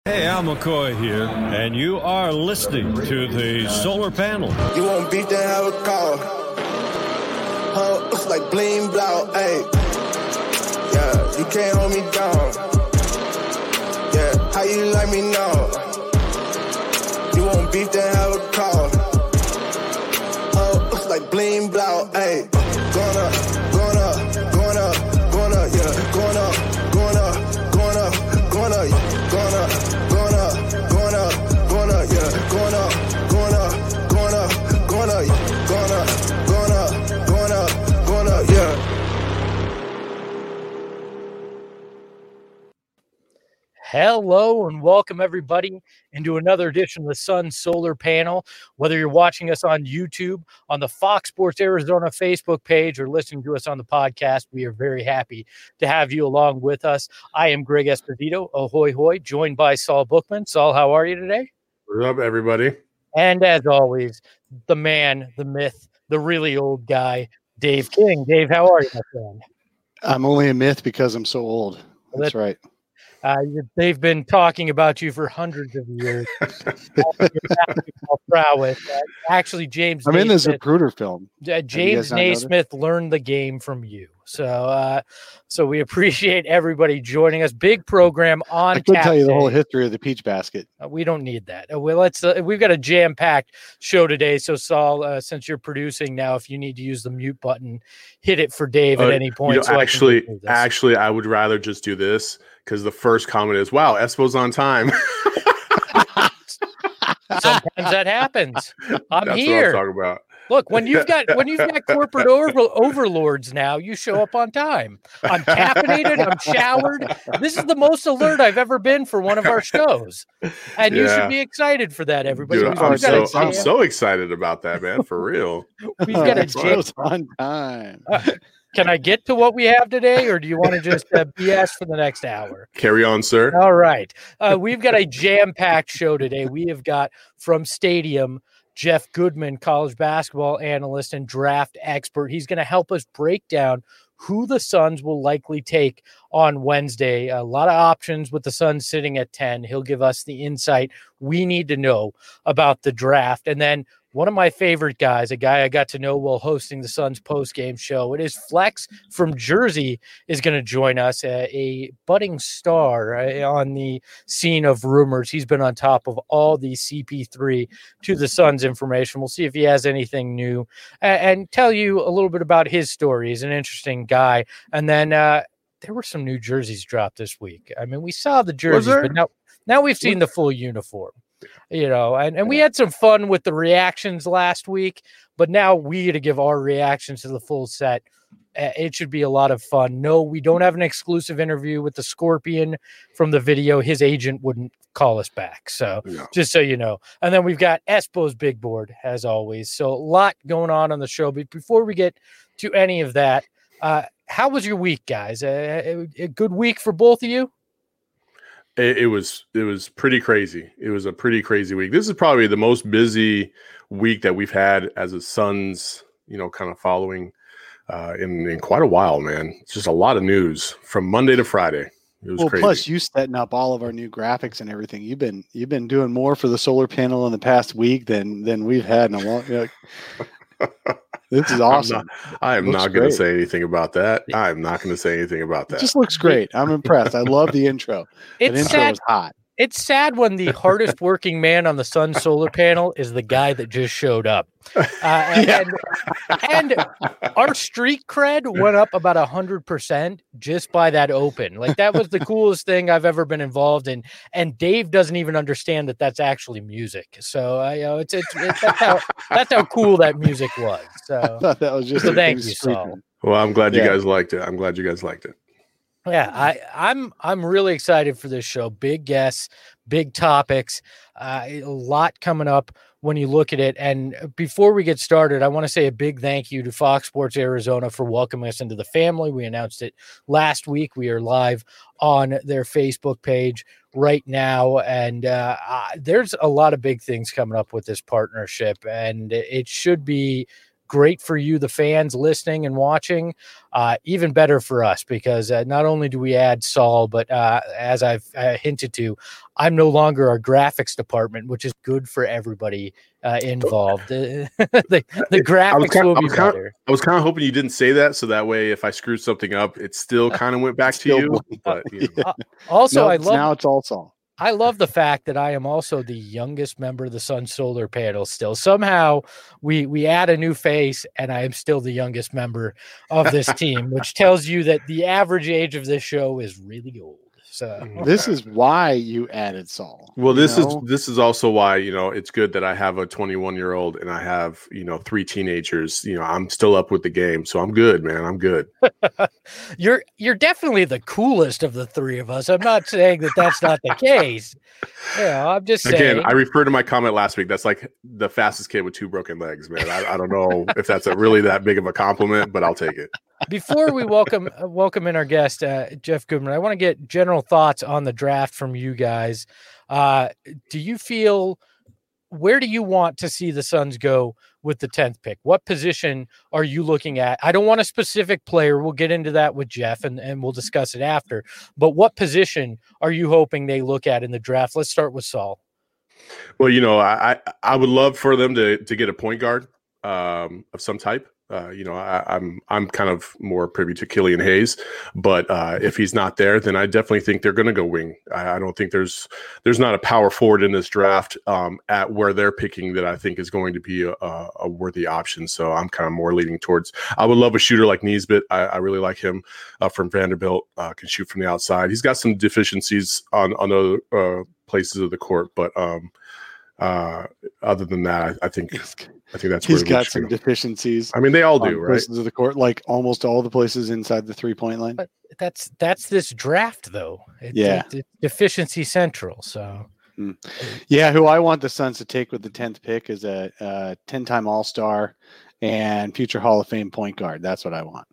Hey, Al McCoy here, and you are listening to the Solar Panel. You won't beat the hell with call. Huh, looks like bling blow, ayy. Yeah, you can't hold me down. Yeah, how you like me now? You won't beat the hell with call. Huh, looks like bling blow, ayy. Going up, going up, going up, going up, yeah. Going up, going up, going up, going up, yeah. Going up, going up, going up, going up, yeah. Going up, going up, going up, going up, yeah. Going up, going up, going up, going up, yeah. Hello and welcome everybody into another edition of the Sun Solar Panel. Whether you're watching us on YouTube, on the Fox Sports Arizona Facebook page, or listening to us on the podcast, we are very happy to have you along with us. I am Greg Esposito, ahoy hoy, joined by Saul Bookman. Saul, how are you today? What's up, everybody? And as always, the man, the myth, the really old guy, Dave King. Dave, how are you, my friend? I'm only a myth because I'm so old. That's right. They've been talking about you for hundreds of years. Prowess. Actually, James. I'm in the Zapruder film. James Naismith learned the game from you. So we appreciate everybody joining us. Big program on. I could tell you the whole history of the Peach Basket. We don't need that. We've got a jam-packed show today. So Saul, since you're producing now, if you need to use the mute button, hit it for Dave at any point. Actually, I would rather just do this. Because the first comment is, wow, Espo's on time. Sometimes that happens. That's here. What I'm talking about. Look, when you've got corporate overlords now, you show up on time. I'm caffeinated. I'm showered. This is the most alert I've ever been for one of our shows, and you should be excited for that, everybody. Dude, I'm so excited about that, man. For real. We've got a jam on time. Can I get to what we have today, or do you want to just BS for the next hour? Carry on, sir. All right. We've got a jam-packed show today. We have got from Stadium, Jeff Goodman, college basketball analyst and draft expert. He's going to help us break down who the Suns will likely take on Wednesday. A lot of options with the Suns sitting at 10. He'll give us the insight we need to know about the draft. And then one of my favorite guys, a guy I got to know while hosting the Suns post-game show. It is Flex from Jersey is going to join us, a budding star on the scene of rumors. He's been on top of all the CP3 to the Suns information. We'll see if he has anything new and tell you a little bit about his story. He's an interesting guy. And then there were some new jerseys dropped this week. I mean, we saw the jerseys, but now we've seen the full uniform. And we had some fun with the reactions last week, but now we got to give our reactions to the full set. It should be a lot of fun. No, we don't have an exclusive interview with the Scorpion from the video. His agent wouldn't call us back. So just so you know. And then we've got Espo's big board as always. So a lot going on the show. But before we get to any of that, how was your week, guys? A good week for both of you? It was pretty crazy. It was a pretty crazy week. This is probably the most busy week that we've had as a Suns, kind of following in quite a while, man. It's just a lot of news from Monday to Friday. It was crazy. Plus, you setting up all of our new graphics and everything. You've been doing more for the solar panel in the past week than we've had in a long. This is awesome. I am not going to say anything about that. I'm not going to say anything about that. It just looks great. I'm impressed. I love the intro. That intro was hot. It's sad when the hardest working man on the Sun solar panel is the guy that just showed up. And our street cred went up about 100% just by that open. Like, that was the coolest thing I've ever been involved in. And Dave doesn't even understand that that's actually music. So that's how cool that music was. So I thought that was just thank you, Saul. Well, I'm glad you guys liked it. I'm glad you guys liked it. Yeah, I'm really excited for this show. Big guests, big topics, a lot coming up when you look at it. And before we get started, I want to say a big thank you to Fox Sports Arizona for welcoming us into the family. We announced it last week. We are live on their Facebook page right now, and there's a lot of big things coming up with this partnership, and it should be great for you, the fans listening and watching. Even better for us, because not only do we add Saul, but as I've hinted to, I'm no longer our graphics department, which is good for everybody involved. The graphics will be better. I was kind of hoping you didn't say that, so that way if I screwed something up, it still kind of went back to you. But also, now it's all Saul. I love the fact that I am also the youngest member of the Sun Solar Panel still. Somehow we add a new face, and I am still the youngest member of this team, which tells you that the average age of this show is really old. So this is why you added Saul. Well, this is also why, it's good that I have a 21-year-old and I have, 3 teenagers. I'm still up with the game, so I'm good, man. I'm good. You're definitely the coolest of the 3 of us. I'm not saying that that's not the case. I'm just saying. Again, I refer to my comment last week. That's like the fastest kid with 2 broken legs, man. I don't know if that's really that big of a compliment, but I'll take it. Before we welcome in our guest, Jeff Goodman, I want to get general thoughts on the draft from you guys. Do you feel, where do you want to see the Suns go with the 10th pick? What position are you looking at? I don't want a specific player. We'll get into that with Jeff and we'll discuss it after. But what position are you hoping they look at in the draft? Let's start with Saul. Well, I would love for them to get a point guard of some type. I'm kind of more privy to Killian Hayes, but if he's not there, then I definitely think they're going to go wing. I don't think there's not a power forward in this draft at where they're picking that I think is going to be a worthy option. So I'm kind of more leaning towards. I would love a shooter like Nesbitt. I really like him from Vanderbilt. Can shoot from the outside. He's got some deficiencies on other places of the court, but other than that, I think that's he's got some deficiencies. I mean, they all do, right? Places of the court, like almost all the places inside the 3-point line. But that's this draft, though. It's deficiency central. So, yeah, who I want the Suns to take with the 10th pick is a 10-time All-Star and future Hall of Fame point guard. That's what I want.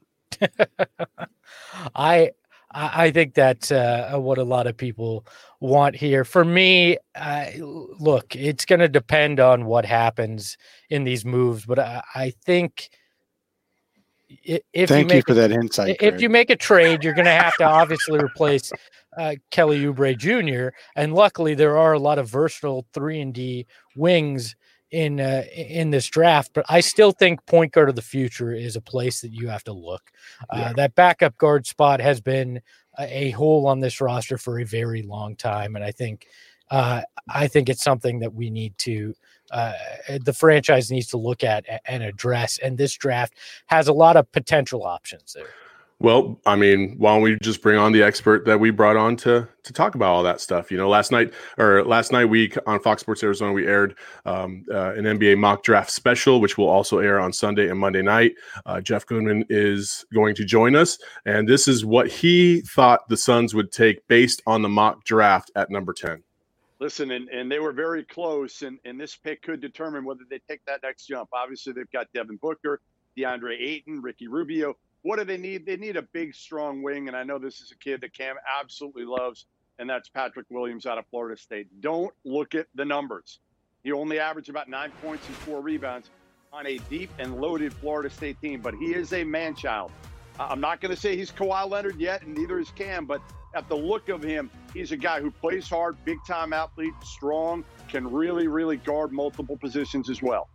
I think that's what a lot of people want here. For me, look, it's going to depend on what happens in these moves, but I think Thank you for that insight. If you make a trade, you're going to have to obviously replace Kelly Oubre Jr. And luckily, there are a lot of versatile 3-and-D wings in this draft, but I still think point guard of the future is a place that you have to look. That backup guard spot has been a hole on this roster for a very long time, and I think it's something that we need to the franchise needs to look at and address. And this draft has a lot of potential options there. Well, I mean, why don't we just bring on the expert that we brought on to talk about all that stuff? Last night we on Fox Sports Arizona, we aired an NBA mock draft special, which will also air on Sunday and Monday night. Jeff Goodman is going to join us, and this is what he thought the Suns would take based on the mock draft at number 10. Listen, and they were very close, and this pick could determine whether they take that next jump. Obviously, they've got Devin Booker, DeAndre Ayton, Ricky Rubio. What do they need? They need a big, strong wing, and I know this is a kid that Cam absolutely loves, and that's Patrick Williams out of Florida State. Don't look at the numbers. He only averaged about 9 points and 4 rebounds on a deep and loaded Florida State team, but he is a man-child. I'm not going to say he's Kawhi Leonard yet, and neither is Cam, but at the look of him, he's a guy who plays hard, big-time athlete, strong, can really, really guard multiple positions as well.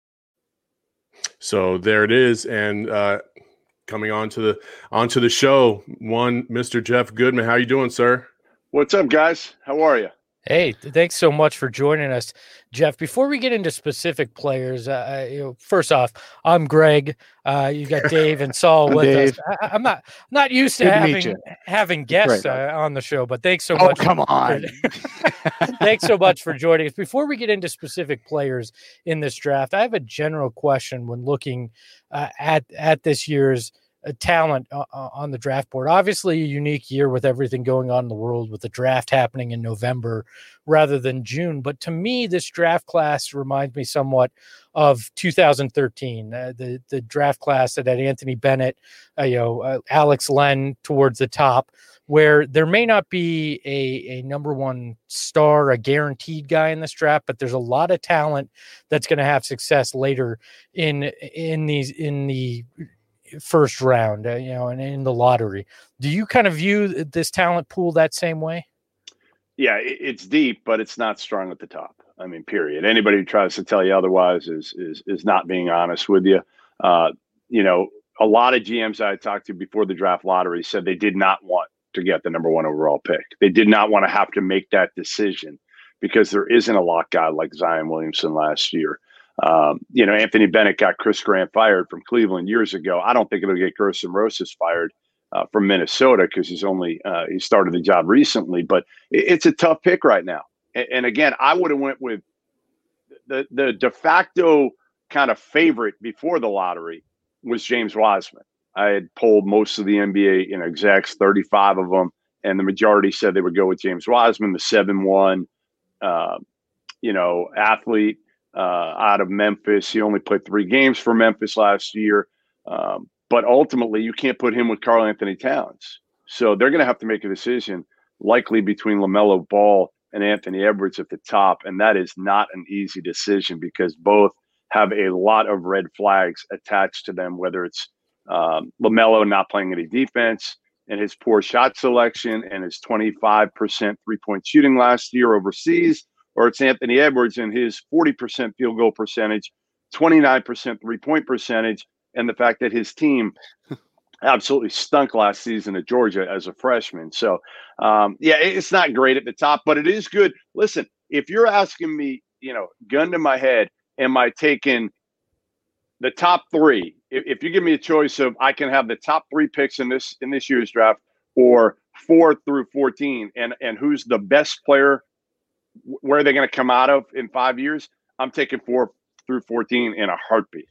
So there it is, and coming onto the show, Mr. Jeff Goodman. How you doing, sir? What's up, guys? How are you? Hey, thanks so much for joining us, Jeff. Before we get into specific players, first off, I'm Greg. You got Dave and Saul with Dave. us. I'm not used to having guests on the show, but thanks so much. Oh, come on. Thanks so much for joining us. Before we get into specific players in this draft, I have a general question when looking at this year's talent on the draft board. Obviously a unique year with everything going on in the world, with the draft happening in November rather than June. But to me, this draft class reminds me somewhat of 2013, the draft class that had Anthony Bennett, Alex Len towards the top, where there may not be a number one star, a guaranteed guy in this draft, but there's a lot of talent that's going to have success later in the first round, and in the lottery. Do you kind of view this talent pool that same way? Yeah, it's deep, but it's not strong at the top. I mean, period. Anybody who tries to tell you otherwise is not being honest with you. A lot of GMs I talked to before the draft lottery said they did not want to get the number one overall pick. They did not want to have to make that decision because there isn't a lock guy like Zion Williamson last year. Anthony Bennett got Chris Grant fired from Cleveland years ago. I don't think it'll get Gerson Rosas fired from Minnesota because he started the job recently. But it's a tough pick right now. And again, I would have went with the de facto kind of favorite before the lottery was James Wiseman. I had polled most of the NBA execs, 35 of them, and the majority said they would go with James Wiseman, the 7-1, athlete out of Memphis. He only played 3 games for Memphis last year, but ultimately you can't put him with Karl Anthony Towns. So they're going to have to make a decision, likely between LaMelo Ball and Anthony Edwards at the top, and that is not an easy decision because both have a lot of red flags attached to them, whether it's LaMelo not playing any defense and his poor shot selection and his 25% three-point shooting last year overseas, or it's Anthony Edwards and his 40% field goal percentage, 29% three-point percentage, and the fact that his team absolutely stunk last season at Georgia as a freshman. So, it's not great at the top, but it is good. Listen, if you're asking me, gun to my head, am I taking the top 3? If you give me a choice of I can have the top 3 picks in this year's draft or 4 through 14 and who's the best player, where are they going to come out of in 5 years? I'm taking 4 through 14 in a heartbeat.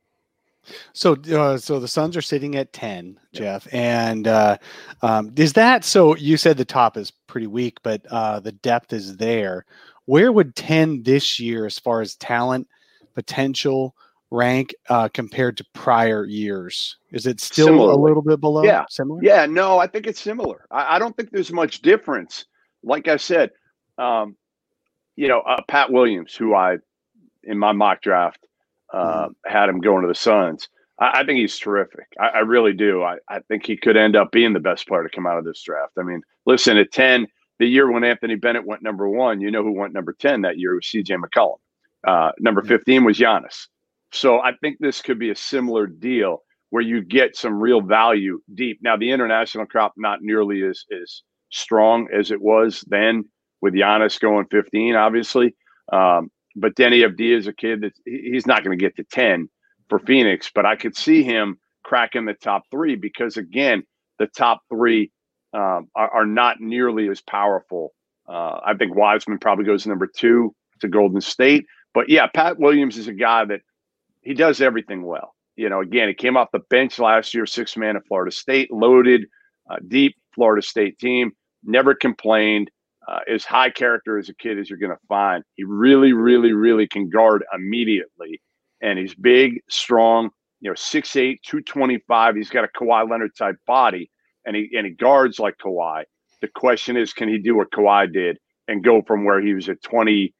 So the Suns are sitting at 10, Jeff, and is that so? You said the top is pretty weak, but the depth is there. Where would 10 this year, as far as talent, potential, rank compared to prior years? Is it still Similarly. A little bit below? Yeah, Similar. Yeah, no, I think it's similar. I don't think there's much difference. Like I said, Pat Williams, who I in my mock draft. Had him going to the Suns. I think he's terrific. I really do. I think he could end up being the best player to come out of this draft. I mean, listen, at 10, the year when Anthony Bennett went number 1, who went number 10 that year was CJ McCollum. Number 15 was Giannis. So I think this could be a similar deal where you get some real value deep. Now, the international crop not nearly as strong as it was then with Giannis going 15, obviously. But Denny Avdija is a kid that he's not going to get to 10 for Phoenix, but I could see him cracking the top 3 because, again, the top 3 are not nearly as powerful. I think Wiseman probably goes number 2 to Golden State. But, yeah, Pat Williams is a guy that he does everything well. Again, he came off the bench last year, 6th man at Florida State, loaded, deep Florida State team, never complained. As high character as a kid as you're going to find. He really, really, really can guard immediately. And he's big, strong, 6'8", 225. He's got a Kawhi Leonard type body, and he guards like Kawhi. The question is, can he do what Kawhi did and go from where he was a 20%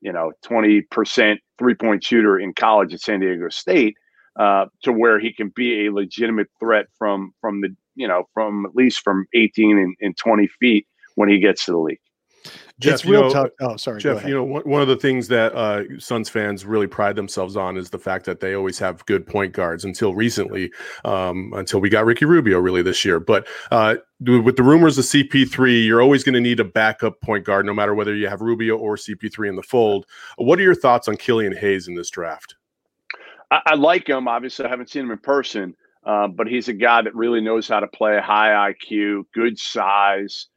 three-point shooter in college at San Diego State to where he can be a legitimate threat from at least from 18 and 20 feet when he gets to the league. Jeff, it's real tough. Oh, sorry, Jeff. One of the things that Suns fans really pride themselves on is the fact that they always have good point guards. Until recently, until we got Ricky Rubio really this year. But with the rumors of CP3, you're always going to need a backup point guard, no matter whether you have Rubio or CP3 in the fold. What are your thoughts on Killian Hayes in this draft? I like him. Obviously, I haven't seen him in person, but he's a guy that really knows how to play, high IQ, good size.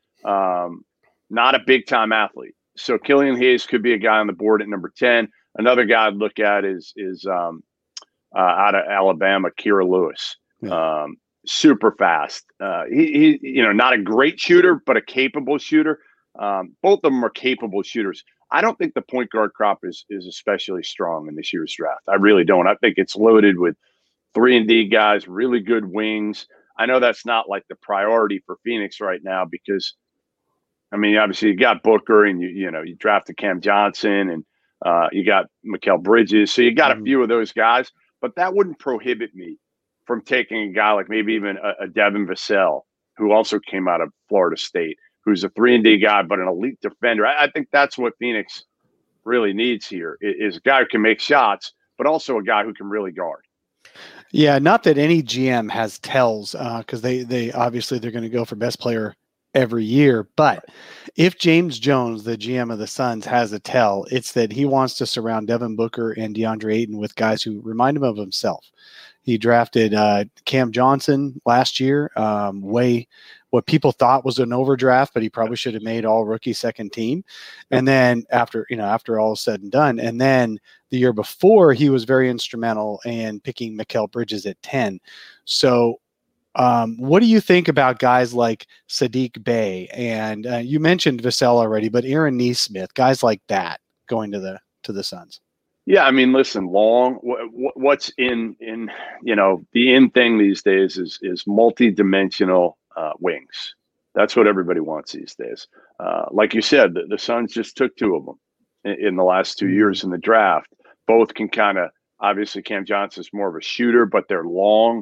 Not a big-time athlete. So Killian Hayes could be a guy on the board at number 10. Another guy I'd look at is out of Alabama, Kira Lewis. Super fast. He not a great shooter, but a capable shooter. Both of them are capable shooters. I don't think the point guard crop is especially strong in this year's draft. I really don't. I think it's loaded with 3-and-D guys, really good wings. I know that's not like the priority for Phoenix right now because, I mean, obviously you got Booker and you drafted Cam Johnson and you got Mikal Bridges. So you got a few of those guys, but that wouldn't prohibit me from taking a guy like maybe even a Devin Vassell, who also came out of Florida State, who's a 3-and-D guy, but an elite defender. I think that's what Phoenix really needs here is a guy who can make shots, but also a guy who can really guard. Yeah, not that any GM has tells because they obviously they're going to go for best player every year. But if James Jones, the GM of the Suns, has a tell, it's that he wants to surround Devin Booker and DeAndre Ayton with guys who remind him of himself. He drafted Cam Johnson last year, what people thought was an overdraft, but he probably should have made all rookie second team. And then after all is said and done, and then the year before he was very instrumental in picking Mikal Bridges at 10. So what do you think about guys like Saddiq Bey? And you mentioned Vassell already, but Aaron Nesmith, guys like that going to the Suns. Yeah, I mean, listen, what's in the in thing these days is multi-dimensional wings. That's what everybody wants these days. Like you said, the Suns just took 2 of them in the last 2 years in the draft. Both can kind of, obviously Cam Johnson's more of a shooter, but they're long.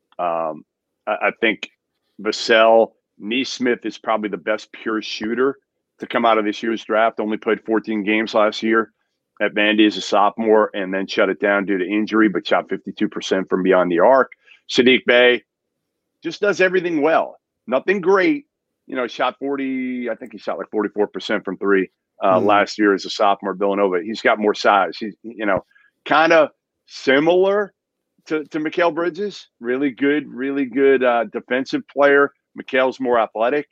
I think Vassell, Nesmith is probably the best pure shooter to come out of this year's draft. Only played 14 games last year at Vandy as a sophomore and then shut it down due to injury, but shot 52% from beyond the arc. Saddiq Bey just does everything well. Nothing great. Shot 40, I think he shot like 44% from 3 last year as a sophomore at Villanova. He's got more size. He's, kind of similar to Mikal Bridges. Really good defensive player. Mikal's more athletic.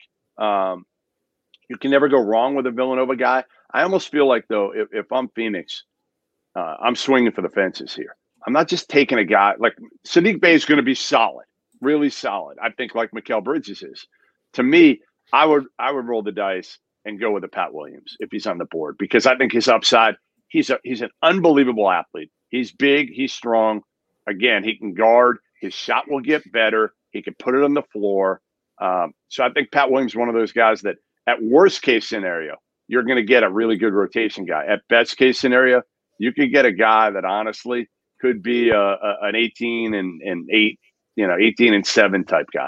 You can never go wrong with a Villanova guy. I almost feel like, though, if I'm Phoenix, I'm swinging for the fences here. I'm not just taking a guy like Saddiq Bey is going to be solid, really solid. I think like Mikal Bridges is. To me, I would roll the dice and go with a Pat Williams if he's on the board because I think his upside. He's an unbelievable athlete. He's big. He's strong. Again, he can guard. His shot will get better. He can put it on the floor. So I think Pat Williams is one of those guys that at worst case scenario, you're going to get a really good rotation guy. At best case scenario, you could get a guy that honestly could be an 18 and 8, 18 and 7 type guy.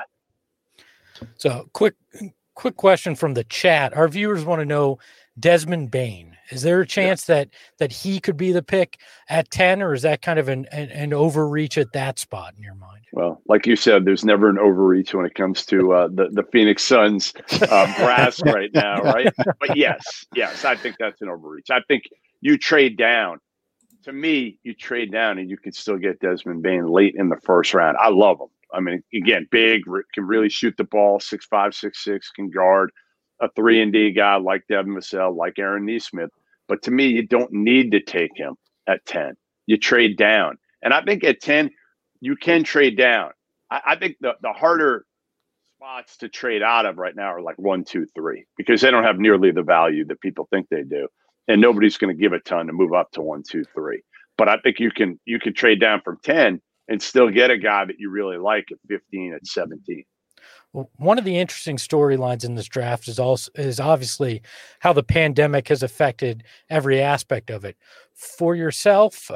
So quick question from the chat. Our viewers want to know Desmond Bane. Is there a chance that he could be the pick at 10, or is that kind of an overreach at that spot in your mind? Well, like you said, there's never an overreach when it comes to the Phoenix Suns brass right now, right? But yes, I think that's an overreach. I think you trade down. To me, you trade down and you can still get Desmond Bane late in the first round. I love him. I mean, again, big, can really shoot the ball, 6'5", 6'6", can guard. A 3-and-D guy like Devin Vassell, like Aaron Nesmith. But to me, you don't need to take him at 10. You trade down. And I think at 10, you can trade down. I think the harder spots to trade out of right now are like 1, 2, 3, because they don't have nearly the value that people think they do. And nobody's going to give a ton to move up to 1, 2, 3. But I think you can trade down from 10 and still get a guy that you really like at 15, at 17. Well, one of the interesting storylines in this draft is obviously how the pandemic has affected every aspect of it. For yourself,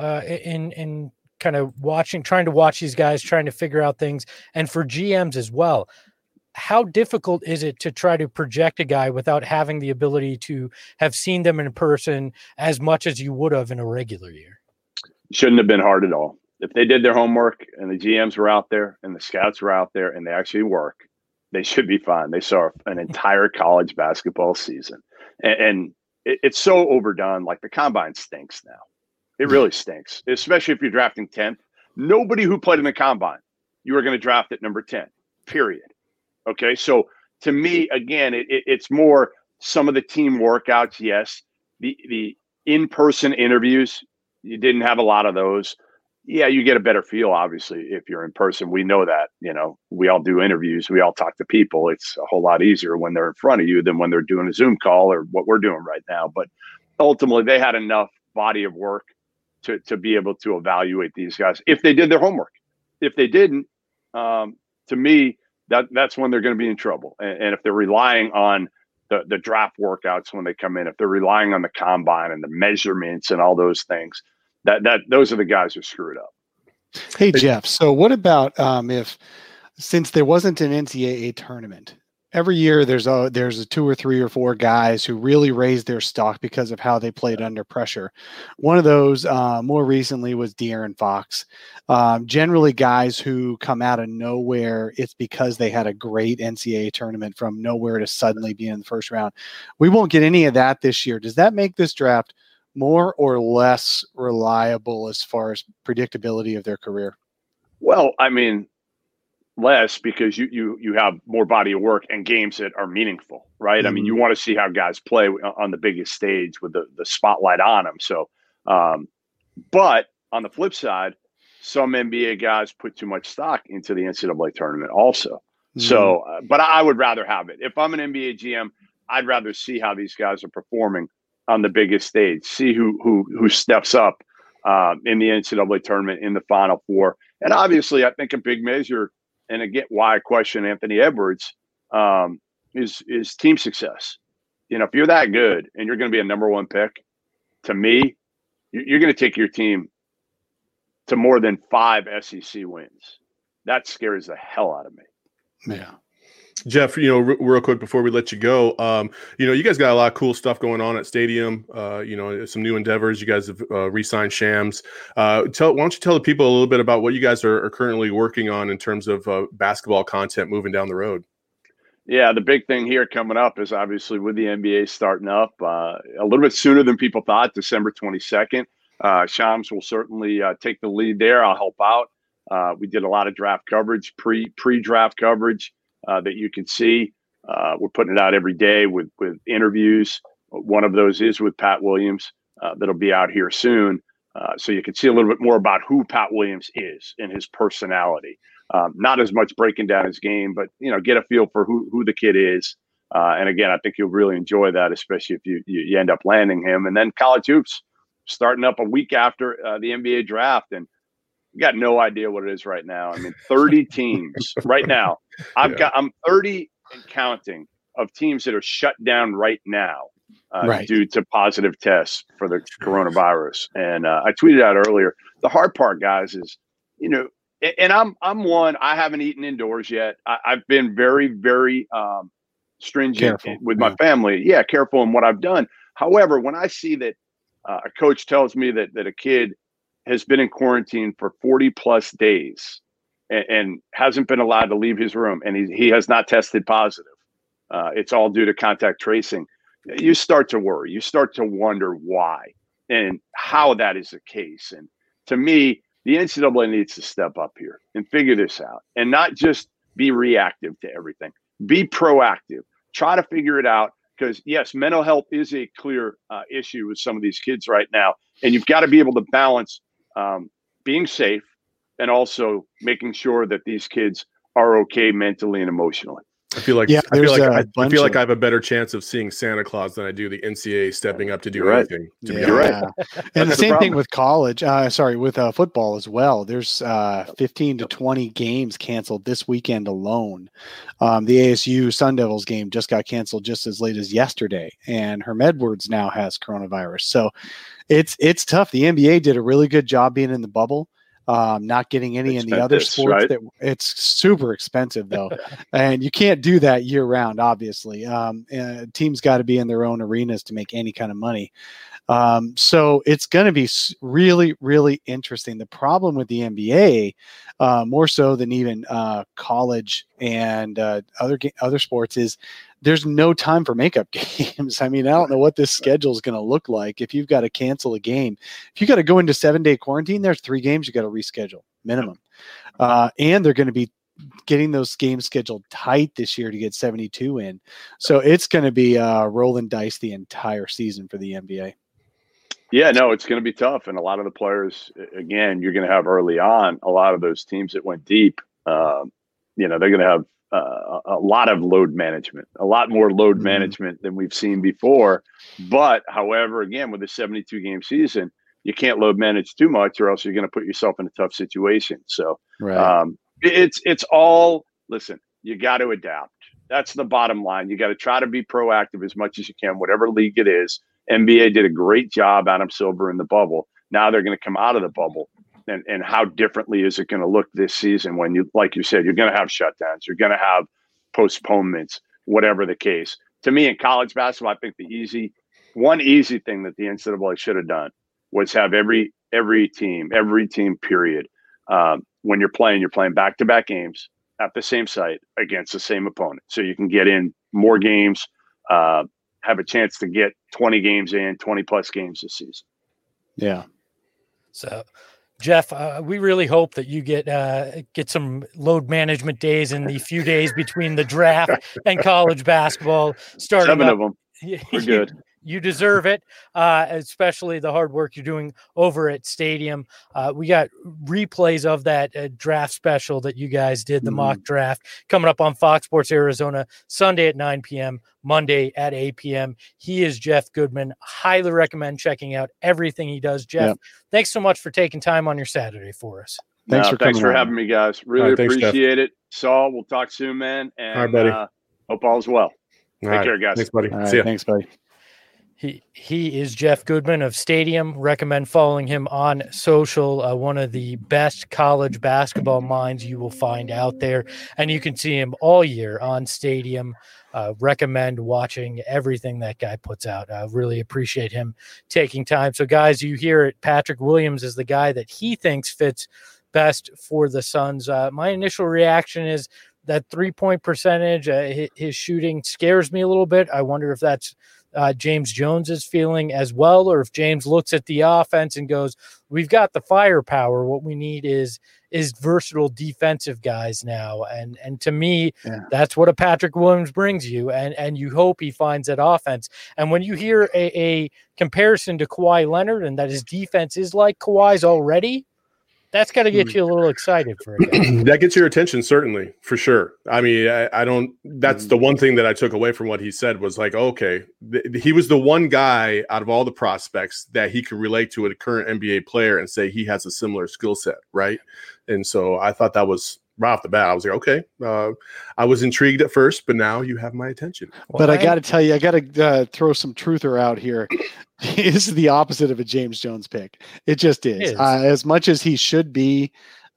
in kind of trying to watch these guys, trying to figure out things, and for GMs as well, how difficult is it to try to project a guy without having the ability to have seen them in person as much as you would have in a regular year? Shouldn't have been hard at all. If they did their homework and the GMs were out there and the scouts were out there and they actually work, they should be fine. They saw an entire college basketball season. And it's so overdone. Like the combine stinks now. It really stinks, especially if you're drafting 10th. Nobody who played in the combine, you were going to draft at number 10, period. Okay, so to me, again, it's more some of the team workouts, yes. The in-person interviews, you didn't have a lot of those. Yeah, you get a better feel, obviously, if you're in person. We know that, we all do interviews. We all talk to people. It's a whole lot easier when they're in front of you than when they're doing a Zoom call or what we're doing right now. But ultimately, they had enough body of work to be able to evaluate these guys if they did their homework. If they didn't, to me, that's when they're going to be in trouble. And if they're relying on the draft workouts when they come in, if they're relying on the combine and the measurements and all those things, those are the guys who screw it up. Hey, Jeff. So what about since there wasn't an NCAA tournament, every year there's a 2 or 3 or 4 guys who really raised their stock because of how they played under pressure. One of those more recently was De'Aaron Fox. Generally guys who come out of nowhere, it's because they had a great NCAA tournament from nowhere to suddenly be in the first round. We won't get any of that this year. Does that make this draft more or less reliable as far as predictability of their career? Well, I mean, less, because you have more body of work and games that are meaningful, right? Mm-hmm. I mean, you want to see how guys play on the biggest stage with the spotlight on them. So, but on the flip side, some NBA guys put too much stock into the NCAA tournament also. Mm-hmm. So, but I would rather have it. If I'm an NBA GM, I'd rather see how these guys are performing on the biggest stage, see who steps up in the NCAA tournament in the Final Four. And obviously, I think a big measure, and again, why I question Anthony Edwards, is team success. You know, if you're that good and you're going to be a number 1 pick, to me, you're going to take your team to more than 5 SEC wins. That scares the hell out of me. Yeah. Jeff, you know, real quick before we let you go, you know, you guys got a lot of cool stuff going on at Stadium. You know, some new endeavors. You guys have re-signed Shams. Why don't you tell the people a little bit about what you guys are currently working on in terms of basketball content moving down the road? Yeah, the big thing here coming up is obviously with the NBA starting up a little bit sooner than people thought, December 22nd. Shams will certainly take the lead there. I'll help out. We did a lot of draft coverage, pre-draft coverage. That you can see. We're putting it out every day with interviews. One of those is with Pat Williams. That'll be out here soon. So you can see a little bit more about who Pat Williams is and his personality. Not as much breaking down his game, but, you know, get a feel for who the kid is. And again, I think you'll really enjoy that, especially if you end up landing him. And then college hoops starting up a week after the NBA draft. And you got no idea what it is right now. I mean, 30 teams right now. I'm 30 and counting of teams that are shut down right now due to positive tests for the coronavirus. And I tweeted out earlier, the hard part, guys, is, you know, and I'm one, I haven't eaten indoors yet. I've been very, very stringent with my family. Yeah, careful in what I've done. However, when I see that a coach tells me that a kid has been in quarantine for 40 plus days and hasn't been allowed to leave his room, and he has not tested positive. It's all due to contact tracing. You start to worry. You start to wonder why and how that is the case. And to me, the NCAA needs to step up here and figure this out and not just be reactive to everything. Be proactive. Try to figure it out, because, yes, mental health is a clear issue with some of these kids right now. And you've got to be able to balance being safe and also making sure that these kids are okay mentally and emotionally. I feel like I have a better chance of seeing Santa Claus than I do the NCAA stepping up to do anything. You're right. And the same thing with college. With football as well. There's 15 to 20 games canceled this weekend alone. The ASU Sun Devils game just got canceled just as late as yesterday, and Herm Edwards now has coronavirus. So it's tough. The NBA did a really good job being in the bubble. Not getting any in the other sports. Right? It's super expensive though. And you can't do that year round, obviously. Teams got to be in their own arenas to make any kind of money. So it's going to be really, really interesting. The problem with the NBA, more so than even college and other sports, is there's no time for makeup games. I mean, I don't know what this schedule is going to look like. If you've got to cancel a game, if you got to go into 7-day quarantine, there's 3 games you got to reschedule minimum. And they're going to be getting those games scheduled tight this year to get 72 in. So it's going to be rolling dice the entire season for the NBA. Yeah, no, it's going to be tough. And a lot of the players, again, you're going to have early on, a lot of those teams that went deep, they're going to have a lot of load management, a lot more load management than we've seen before. But however, again, with a 72-game season, you can't load manage too much, or else you're going to put yourself in a tough situation. So it's all, listen, You got to adapt. That's the bottom line. You got to try to be proactive as much as you can, whatever league it is. NBA did a great job, Adam Silver, in the bubble. Now they're going to come out of the bubble. And how differently is it going to look this season when you, like you said, you're going to have shutdowns, you're going to have postponements, whatever the case. To me, in college basketball, I think one easy thing that the NCAA should have done was have every team, period. When you're playing back-to-back games at the same site against the same opponent. So you can get in more games, have a chance to get 20 games in, 20-plus games this season. Yeah. So, Jeff, we really hope that you get some load management days in the few days between the draft and college basketball starting. 7 of them. We're good. You deserve it, especially the hard work you're doing over at Stadium. We got replays of that draft special that you guys did, the mock draft, coming up on Fox Sports Arizona, Sunday at 9 p.m., Monday at 8 p.m. He is Jeff Goodman. Highly recommend checking out everything he does. Jeff, thanks so much for taking time on your Saturday for us. Thanks for having me, guys. Really appreciate it. Saul, we'll talk soon, man. And all right, buddy. Hope all's well. Take care, guys. Thanks, buddy. All right, see ya. Thanks, buddy. He is Jeff Goodman of Stadium. Recommend following him on social. One of the best college basketball minds you will find out there. And you can see him all year on Stadium. Recommend watching everything that guy puts out. I really appreciate him taking time. So, guys, you hear it. Patrick Williams is the guy that he thinks fits best for the Suns. My initial reaction is that 3-point percentage, his shooting scares me a little bit. I wonder if that's James Jones's feeling as well, or if James looks at the offense and goes, we've got the firepower. What we need is versatile defensive guys now. And to me, that's what a Patrick Williams brings you. And you hope he finds that offense. And when you hear a comparison to Kawhi Leonard and that his defense is like Kawhi's already, that's got to get you a little excited for it. That gets your attention, certainly, for sure. I mean, I don't. That's the one thing that I took away from what he said was like, okay, he was the one guy out of all the prospects that he could relate to a current NBA player and say he has a similar skill set, right? And so I thought that was right off the bat. I was like, okay, I was intrigued at first, but now you have my attention. But I got to tell you, I got to throw some truther out here. This is the opposite of a James Jones pick. It just is. As much as he should be,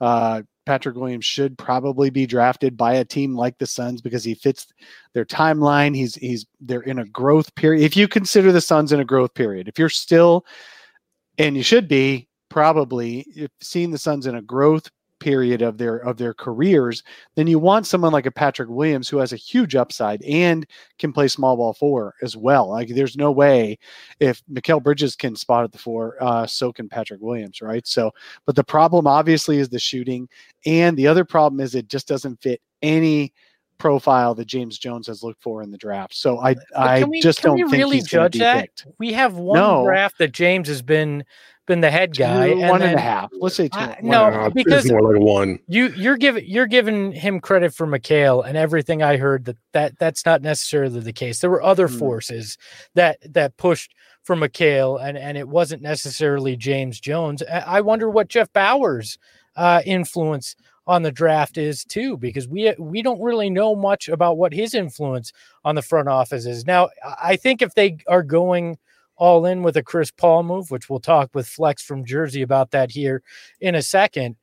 Patrick Williams should probably be drafted by a team like the Suns because he fits their timeline. They're in a growth period. If you consider the Suns in a growth period, if you're still, and you should be probably seeing the Suns in a growth period of their careers, then you want someone like a Patrick Williams who has a huge upside and can play small ball 4 as well. Like there's no way if Mikal Bridges can spot at the 4, so can Patrick Williams, right? So, but the problem obviously is the shooting, and the other problem is it just doesn't fit any profile that James Jones has looked for in the draft. So I just don't think really he's going to be picked. We have one draft that James has been the head guy. 1.5. Let's say 2. No, because it's more like 1. You're giving him credit for Mikal, and everything I heard that's not necessarily the case. There were other forces that pushed for Mikal, and it wasn't necessarily James Jones. I wonder what Jeff Bauer's influence on the draft is too, because we don't really know much about what his influence on the front office is. Now, I think if they are going all in with a Chris Paul move, which we'll talk with Flex from Jersey about that here in a second,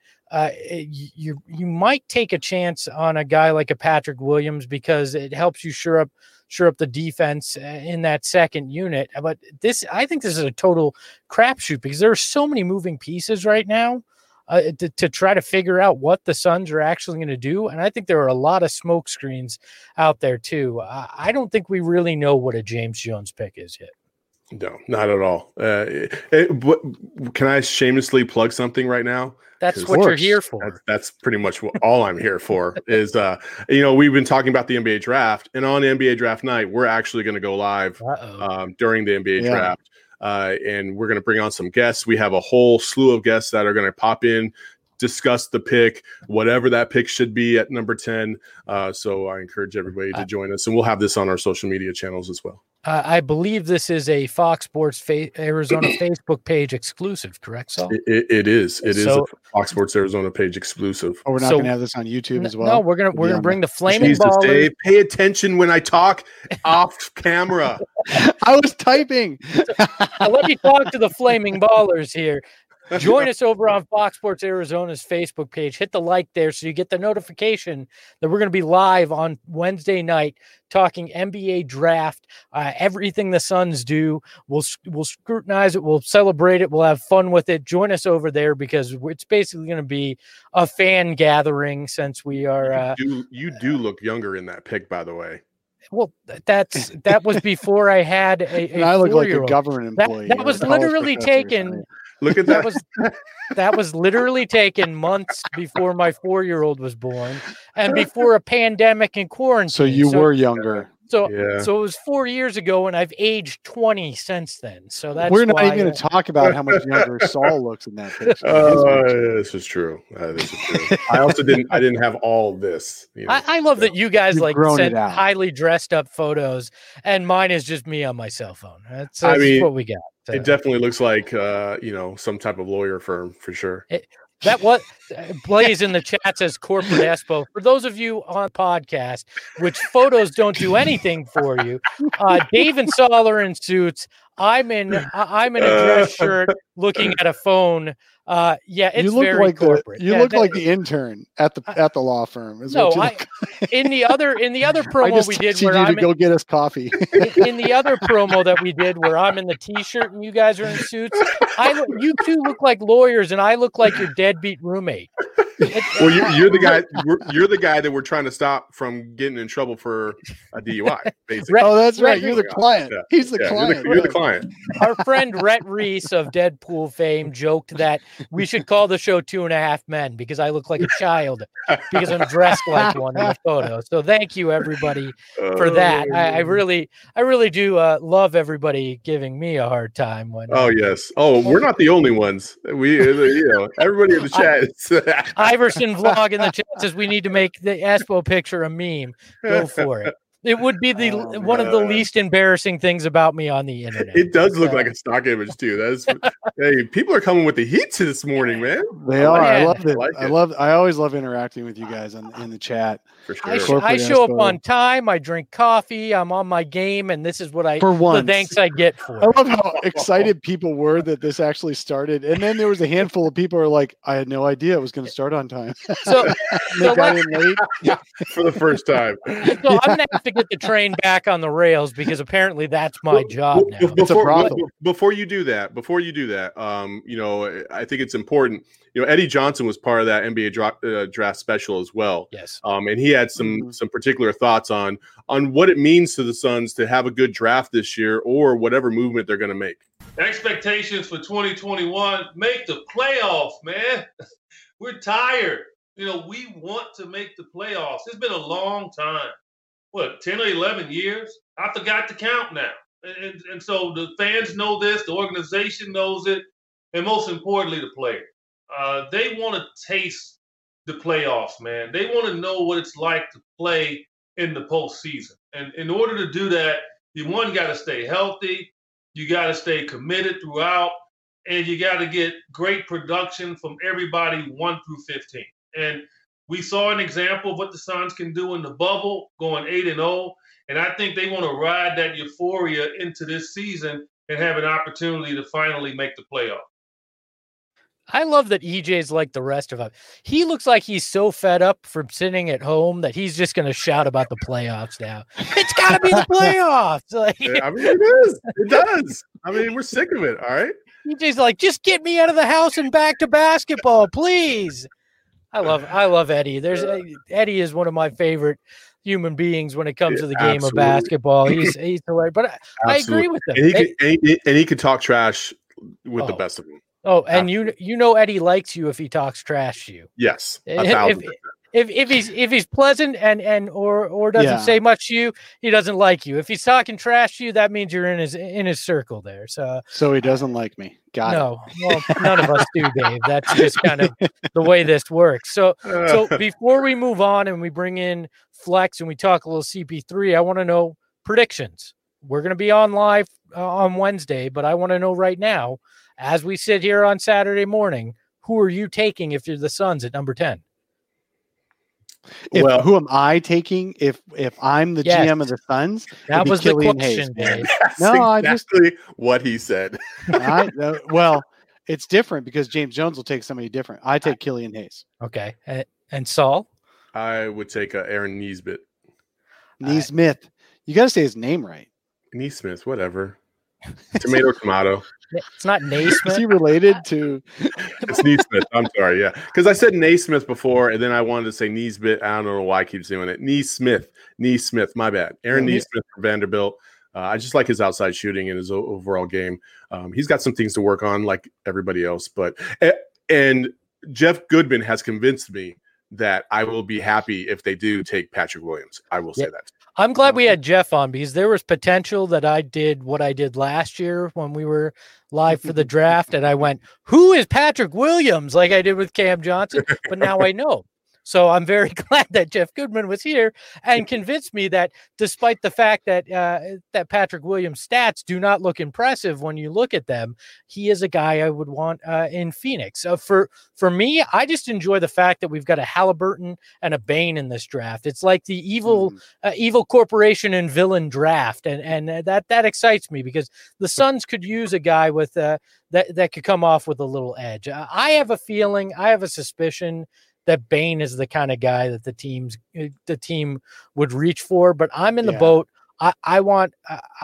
you might take a chance on a guy like a Patrick Williams because it helps you shore up the defense in that second unit. But I think this is a total crapshoot because there are so many moving pieces right now to try to figure out what the Suns are actually going to do. And I think there are a lot of smoke screens out there too. I don't think we really know what a James Jones pick is yet. No, not at all. Can I shamelessly plug something right now? That's what you're here for. That's pretty much all I'm here for is, we've been talking about the NBA draft, and on NBA draft night, we're actually going to go live during the NBA draft. And we're going to bring on some guests. We have a whole slew of guests that are going to pop in, discuss the pick, whatever that pick should be at number 10. So I encourage everybody to join us, and we'll have this on our social media channels as well. I believe this is a Fox Sports Arizona Facebook page exclusive, correct, Saul? It is. It is So- a Fox Sports Arizona page exclusive. Oh, we're not So- going to have this on YouTube as well. No, we're gonna bring the Flaming Jesus, Ballers. Dave, pay attention when I talk off camera. I was typing. Now, let me talk to the Flaming Ballers here. Join us over on Fox Sports Arizona's Facebook page. Hit the like there so you get the notification that we're going to be live on Wednesday night talking NBA draft, everything the Suns do. We'll scrutinize it. We'll celebrate it. We'll have fun with it. Join us over there because it's basically going to be a fan gathering since we are. You do look younger in that pic, by the way. Well, that was before I had a And I look like a 4-year-old. government employee. That or was a college literally professor or taken. something. Look at That that. that was literally taken months before my 4-year-old was born and before a pandemic and quarantine. So you were younger. so Yeah. it was 4 years ago, and I've aged 20 since then. So that's We're not why, even going to talk about how much younger Saul looks in that picture. This is true. This is true. I also didn't have all this. You know, I love that you guys You've like grown send it out. highly dressed up photos, and mine is just me on my cell phone. That's I mean, what we got. So it definitely looks like some type of lawyer firm for sure. that what Blaze in the chat says corporate expo. For those of you on podcast, which photos don't do anything for you, Dave and Saul are in suits. I'm in a dress shirt looking at a phone. It's you look very like corporate. You look like the intern at the law firm. Is No, what you look in the other I promo just we did texted where you to I'm go get us coffee. in the other promo that we did where I'm in the t-shirt and you guys are in suits, you two look like lawyers and I look like your deadbeat roommate. Well, you're the guy. You're the guy that we're trying to stop from getting in trouble for a DUI. Basically, Oh, that's right. Rhett You're the Reese- client. Yeah. He's the Yeah, client. You're the client. Our friend Rhett Reese of Deadpool fame joked that we should call the show 2.5 Men because I look like a child because I'm dressed like one in the photo. So thank you everybody for that. I really do love everybody giving me a hard time when. Oh yes. Oh, we're not the only ones. We, everybody in the chat. Iverson vlog in the chat says we need to make the Espo picture a meme. Go for it. It would be one of the least embarrassing things about me on the internet. It does look like a stock image too. That's hey, people are coming with the heat this morning, man. They are. I Yeah. love it. I like it. I always love interacting with you guys in the chat. For sure. I Corporate show up Espo. on time. I drink coffee. I'm on my game, and this is what For the once. thanks I get for I it. love how excited people were that this actually started, and then there was a handful of people who were like, "I had no idea it was going to start on time." So, They so, got let's- in late. For the first time. so I'm gonna have to get the train back on the rails because apparently that's my job now. It's a brothel. Before you do that, I think it's important. Eddie Johnson was part of that NBA draft special as well. Yes. And he had some particular thoughts on what it means to the Suns to have a good draft this year or whatever movement they're going to make. Expectations for 2021, make the playoffs, man. We're tired. We want to make the playoffs. It's been a long time. 10 or 11 years? I forgot to count now. And so the fans know this, the organization knows it, and most importantly, the players. They want to taste the playoffs, man. They want to know what it's like to play in the postseason. And in order to do that, you got to stay healthy, you got to stay committed throughout, and you got to get great production from everybody 1 through 15. And we saw an example of what the Suns can do in the bubble, going 8-0. And I think they want to ride that euphoria into this season and have an opportunity to finally make the playoffs. I love that EJ's like the rest of us. He looks like he's so fed up from sitting at home that he's just going to shout about the playoffs now. It's got to be the playoffs. Like, I mean, it is. It does. I mean, we're sick of it. All right. EJ's like, just get me out of the house and back to basketball, please. I love Eddie. Eddie is one of my favorite human beings when it comes to the game of basketball. He's hilarious. But I agree with him. And he can talk trash with the best of them. Oh, and Eddie likes you if he talks trash to you. Yes, 1,000%. If he's pleasant or doesn't say much to you, he doesn't like you. If he's talking trash to you, that means you're in his circle there. So he doesn't like me. Got it. Well, none of us do, Dave. That's just kind of the way this works. So before we move on and we bring in Flex and we talk a little CP3, I want to know predictions. we're going to be on live on Wednesday, but I want to know right now, as we sit here on Saturday morning, who are you taking if you're the Suns at number 10? Who am I taking if I'm the GM of the Suns? That was the Killian question, Dave. That's exactly what he said. Well, it's different because James Jones will take somebody different. I take Killian Hayes. Okay. And Saul? I would take Aaron Nesmith. Nesmith. You got to say his name right. Nesmith, whatever. Tomato. It's not Naismith. Is he related to? It's Nesmith. I'm sorry. Yeah. Because I said Naismith before, and then I wanted to say Nesmith. I don't know why I keep doing it. Nesmith. My bad. Aaron Nesmith from Vanderbilt. I just like his outside shooting and his overall game. He's got some things to work on like everybody else. And Jeff Goodman has convinced me that I will be happy if they do take Patrick Williams. I will say that. I'm glad we had Jeff on because there was potential that I did what I did last year when we were live for the draft. And I went, who is Patrick Williams? Like I did with Cam Johnson. But now I know. So I'm very glad that Jeff Goodman was here and convinced me that despite the fact that that Patrick Williams' stats do not look impressive when you look at them, he is a guy I would want in Phoenix. For me, I just enjoy the fact that we've got a Halliburton and a Bane in this draft. It's like the evil corporation and villain draft, and that excites me because the Suns could use a guy with that could come off with a little edge. I have a suspicion that Bane is the kind of guy that the team would reach for, but I'm in the boat. I want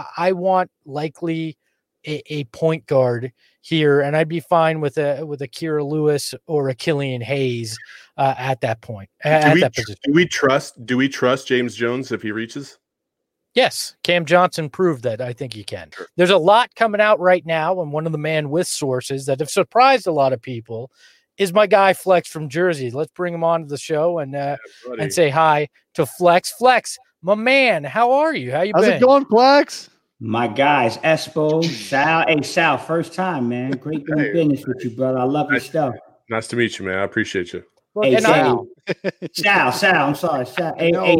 likely a point guard here, and I'd be fine with a Kira Lewis or a Killian Hayes at that point. Do we trust James Jones if he reaches? Yes, Cam Johnson proved that. I think he can. Sure. There's a lot coming out right now, and one of the man with sources that have surprised a lot of people is my guy Flex from Jersey. Let's bring him on to the show and say hi to Flex. Flex, my man, how are you? How's been? How's it going, Flex? My guys, Espo, Sal. Hey, Sal, first time, man. Great doing business with you, brother. I love your stuff. Nice to meet you, man. I appreciate you. Well, hey, Sal. Sal, I'm sorry. Sal.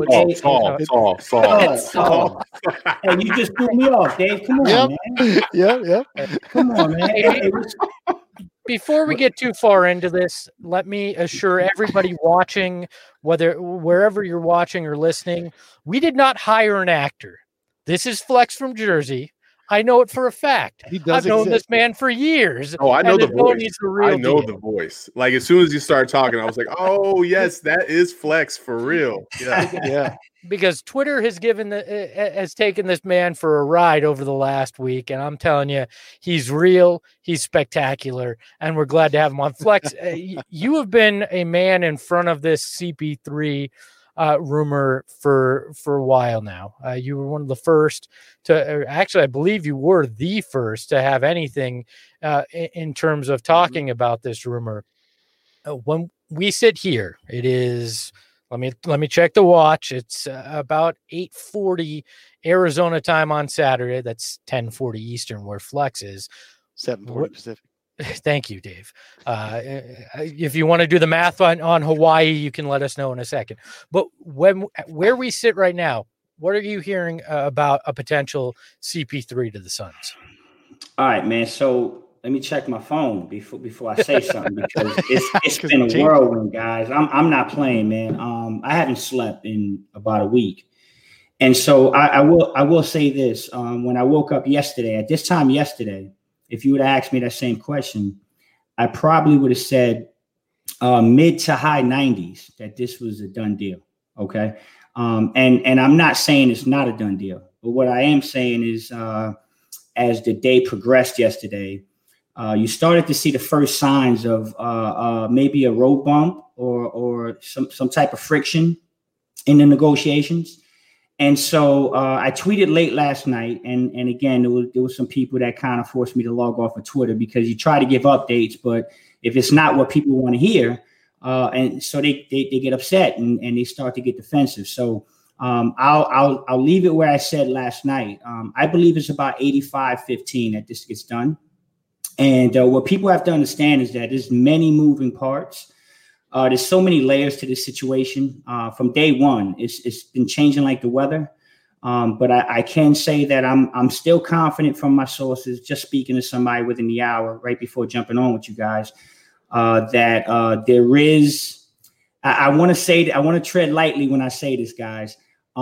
Saul. Hey, you just threw me off, Dave. Come on, man. Yep. Come on, man. Before we get too far into this, let me assure everybody watching, wherever you're watching or listening, we did not hire an actor. This is Flex from Jersey. I know it for a fact. I've known this man for years. Oh, I know the voice. I know the voice. Like as soon as you started talking, I was like, "Oh yes, that is Flex for real." Yeah. Because Twitter has taken this man for a ride over the last week, and I'm telling you, he's real, he's spectacular, and we're glad to have him on. Flex, you have been a man in front of this CP3 rumor for a while now. You were one of the first I believe you were the first to have anything in terms of talking about this rumor. When we sit here, it is. Let me check the watch. It's about 8:40 Arizona time on Saturday. That's 10:40 Eastern, where Flex is. 7:40 Pacific. Thank you, Dave. If you want to do the math on Hawaii, you can let us know in a second. But where we sit right now, what are you hearing about a potential CP3 to the Suns? All right, man. So let me check my phone before I say something because it's been a whirlwind, guys. I'm not playing, man. I haven't slept in about a week, and so I will say this. When I woke up yesterday, at this time yesterday, if you would have asked me that same question, I probably would have said mid to high 90s that this was a done deal. Okay, and I'm not saying it's not a done deal, but what I am saying is as the day progressed yesterday. You started to see the first signs of maybe a road bump or some type of friction in the negotiations. And so I tweeted late last night. And again, there was some people that kind of forced me to log off of Twitter because you try to give updates. But if it's not what people want to hear, and so they get upset and they start to get defensive. So I'll leave it where I said last night. I believe it's about 85-15 that this gets done. And what people have to understand is that there's many moving parts. There's so many layers to this situation. From day one, it's been changing like the weather. But I can say that I'm still confident from my sources, just speaking to somebody within the hour right before jumping on with you guys, that there is, I want to say, I want to tread lightly when I say this, guys.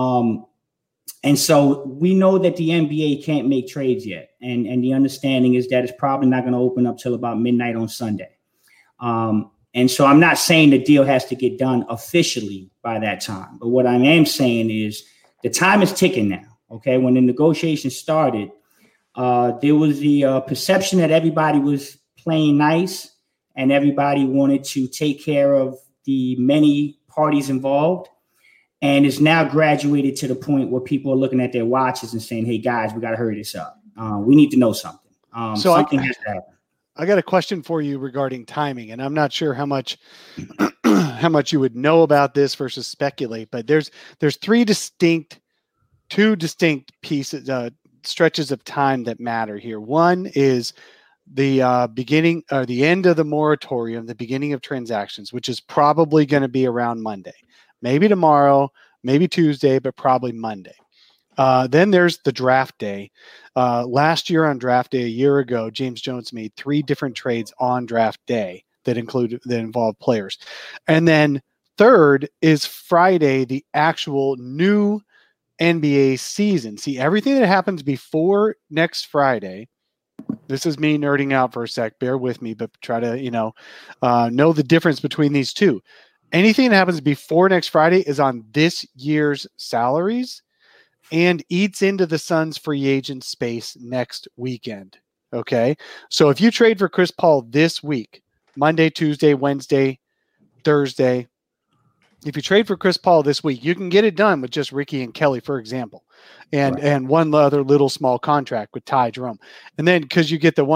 And so we know that the NBA can't make trades yet. And the understanding is that it's probably not going to open up till about midnight on Sunday. And so I'm not saying the deal has to get done officially by that time. But what I am saying is the time is ticking now. Okay. When the negotiations started, there was the perception that everybody was playing nice and everybody wanted to take care of the many parties involved. And it's now graduated to the point where people are looking at their watches and saying, hey, guys, we got to hurry this up. We need to know something. Something has to happen. I got a question for you regarding timing, and I'm not sure how much you would know about this versus speculate, but there's two distinct pieces, stretches of time that matter here. One is the beginning or the end of the moratorium, the beginning of transactions, which is probably going to be around Monday. Maybe tomorrow, maybe Tuesday, but probably Monday. Then there's the draft day. Last year on draft day, a year ago, James Jones made 3 different trades on draft day that involved players. And then third is Friday, the actual new NBA season. See, everything that happens before next Friday, this is me nerding out for a sec, bear with me, but try to, know the difference between these two. Anything that happens before next Friday is on this year's salaries and eats into the Suns free agent space next weekend. Okay. So if you trade for Chris Paul this week, Monday, Tuesday, Wednesday, Thursday, if you trade for Chris Paul this week, you can get it done with just Ricky and Kelly, for example, and one other little small contract with Ty Jerome. And then because you get the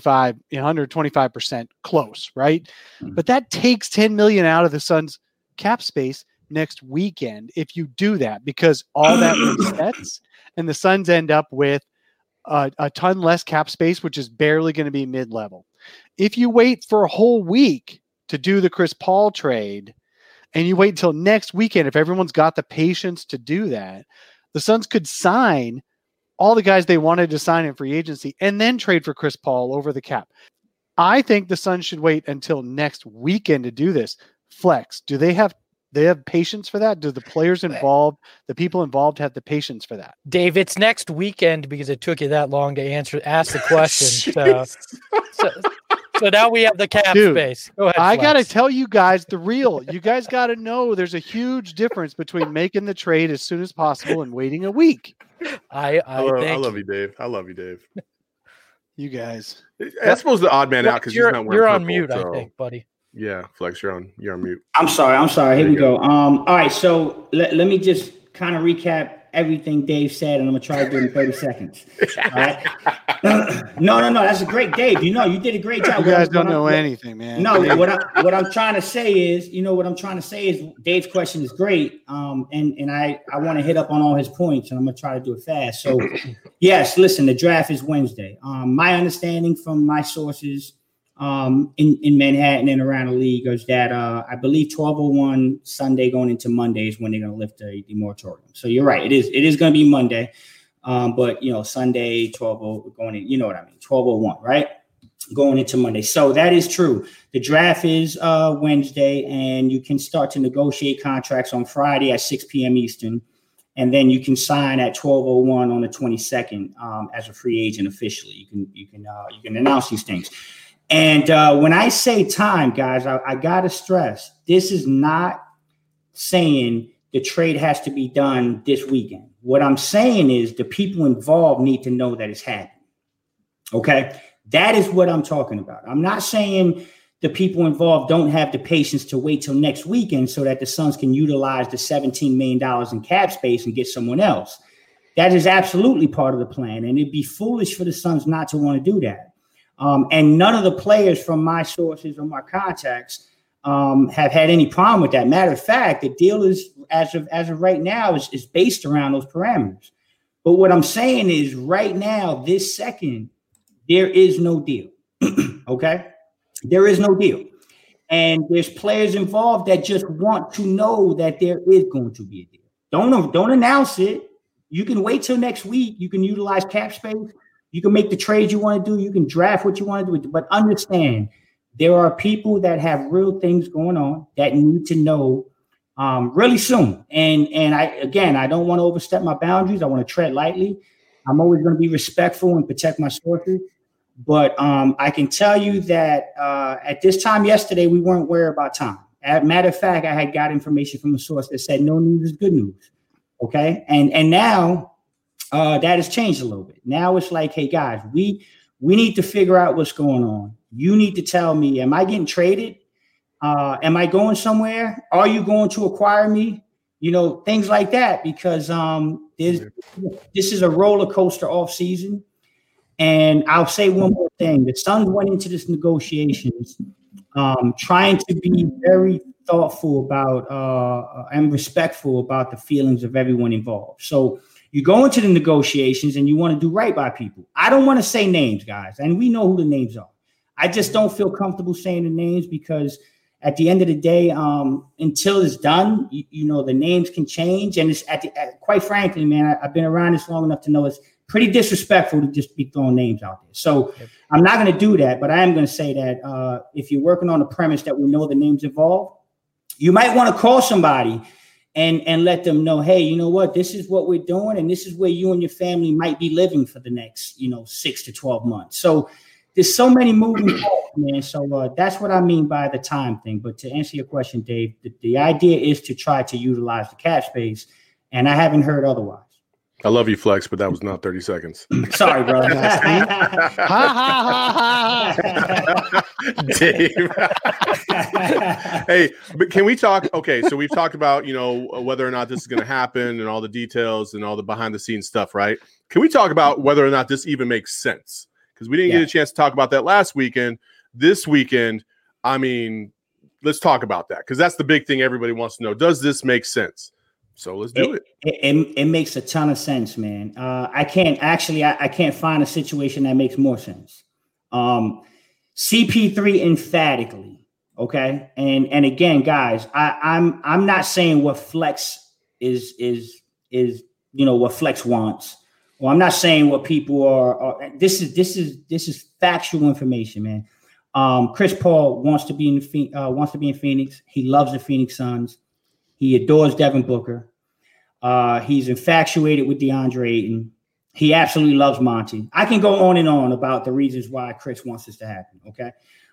125% close, right? Mm-hmm. But that takes $10 million out of the Suns cap space next weekend if you do that, because all that resets and the Suns end up with a ton less cap space, which is barely going to be mid-level. If you wait for a whole week to do the Chris Paul trade, and you wait until next weekend, if everyone's got the patience to do that, the Suns could sign all the guys they wanted to sign in free agency and then trade for Chris Paul over the cap. I think the Suns should wait until next weekend to do this. Flex, do they have patience for that? Do the players involved, the people involved have the patience for that? Dave, it's next weekend because it took you that long to ask the question. So now we have the cap space. Go ahead, I got to tell you guys the real. You guys got to know there's a huge difference between making the trade as soon as possible and waiting a week. I love you, Dave. I love you, Dave. You guys. I suppose the odd man out because he's not wearing You're on purple, mute, so. I think, buddy. Yeah, Flex, you're on mute. I'm sorry. Here we go. All right, so let me just kind of recap everything Dave said, and I'm gonna try to do it in 30 seconds. All right. No. That's a great Dave. You did a great job. You guys don't know anything, man. No, what I'm trying to say is, Dave's question is great. And I want to hit up on all his points, and I'm gonna try to do it fast. So yes, listen, the draft is Wednesday. My understanding from my sources in Manhattan and around the league is that I believe 12:01 Sunday going into Monday is when they're going to lift the moratorium. So you're right. It is going to be Monday. But Sunday 12:00 going in, 12:01, right? Going into Monday. So that is true. The draft is Wednesday, and you can start to negotiate contracts on Friday at 6 p.m. Eastern. And then you can sign at 12:01 on the 22nd as a free agent officially. You can announce these things. And when I say time, guys, I got to stress, this is not saying the trade has to be done this weekend. What I'm saying is the people involved need to know that it's happening. Okay? That is what I'm talking about. I'm not saying the people involved don't have the patience to wait till next weekend so that the Suns can utilize the $17 million in cap space and get someone else. That is absolutely part of the plan. And it'd be foolish for the Suns not to want to do that. And none of the players from my sources or my contacts have had any problem with that. Matter of fact, the deal is, as of right now, is based around those parameters. But what I'm saying is right now, this second, there is no deal. Okay? There is no deal. And there's players involved that just want to know that there is going to be a deal. Don't announce it. You can wait till next week. You can utilize cap space. You can make the trades you want to do. You can draft what you want to do. But understand, there are people that have real things going on that need to know really soon. And I don't want to overstep my boundaries. I want to tread lightly. I'm always going to be respectful and protect my sources. But I can tell you that at this time yesterday, we weren't worried about time. As a matter of fact, I had got information from a source that said no news is good news. Okay. And now that has changed a little bit. Now it's like, hey, guys, we need to figure out what's going on. You need to tell me, am I getting traded? Am I going somewhere? Are you going to acquire me? You know, things like that, because this is a roller coaster off season. And I'll say one more thing. The Suns went into this negotiations trying to be very thoughtful about and respectful about the feelings of everyone involved. So you go into the negotiations and you want to do right by people. I don't want to say names, guys, and we know who the names are. I just don't feel comfortable saying the names because at the end of the day, until it's done, you know, the names can change. And it's quite frankly, man, I've been around this long enough to know it's pretty disrespectful to just be throwing names out there. So I'm not going to do that, but I am going to say that if you're working on the premise that we know the names involved, you might want to call somebody and let them know, hey, you know what, this is what we're doing. And this is where you and your family might be living for the next, 6 to 12 months. So there's so many moving parts, man. So that's what I mean by the time thing. But to answer your question, Dave, the idea is to try to utilize the cap space. And I haven't heard otherwise. I love you, Flex, but that was not 30 seconds. Sorry, bro. Dave. Hey, but can we talk? Okay, so we've talked about, whether or not this is going to happen and all the details and all the behind the scenes stuff, right? Can we talk about whether or not this even makes sense? Because we didn't get a chance to talk about that last weekend. This weekend, I mean, let's talk about that because that's the big thing everybody wants to know. Does this make sense? So let's do it. It makes a ton of sense, man. I can't find a situation that makes more sense. CP3 emphatically, okay. And again, guys, I'm not saying what Flex is what Flex wants. Well, I'm not saying what people are. This is factual information, man. Chris Paul wants to be in Phoenix. He loves the Phoenix Suns. He adores Devin Booker. He's infatuated with DeAndre Ayton. He absolutely loves Monty. I can go on and on about the reasons why Chris wants this to happen, okay?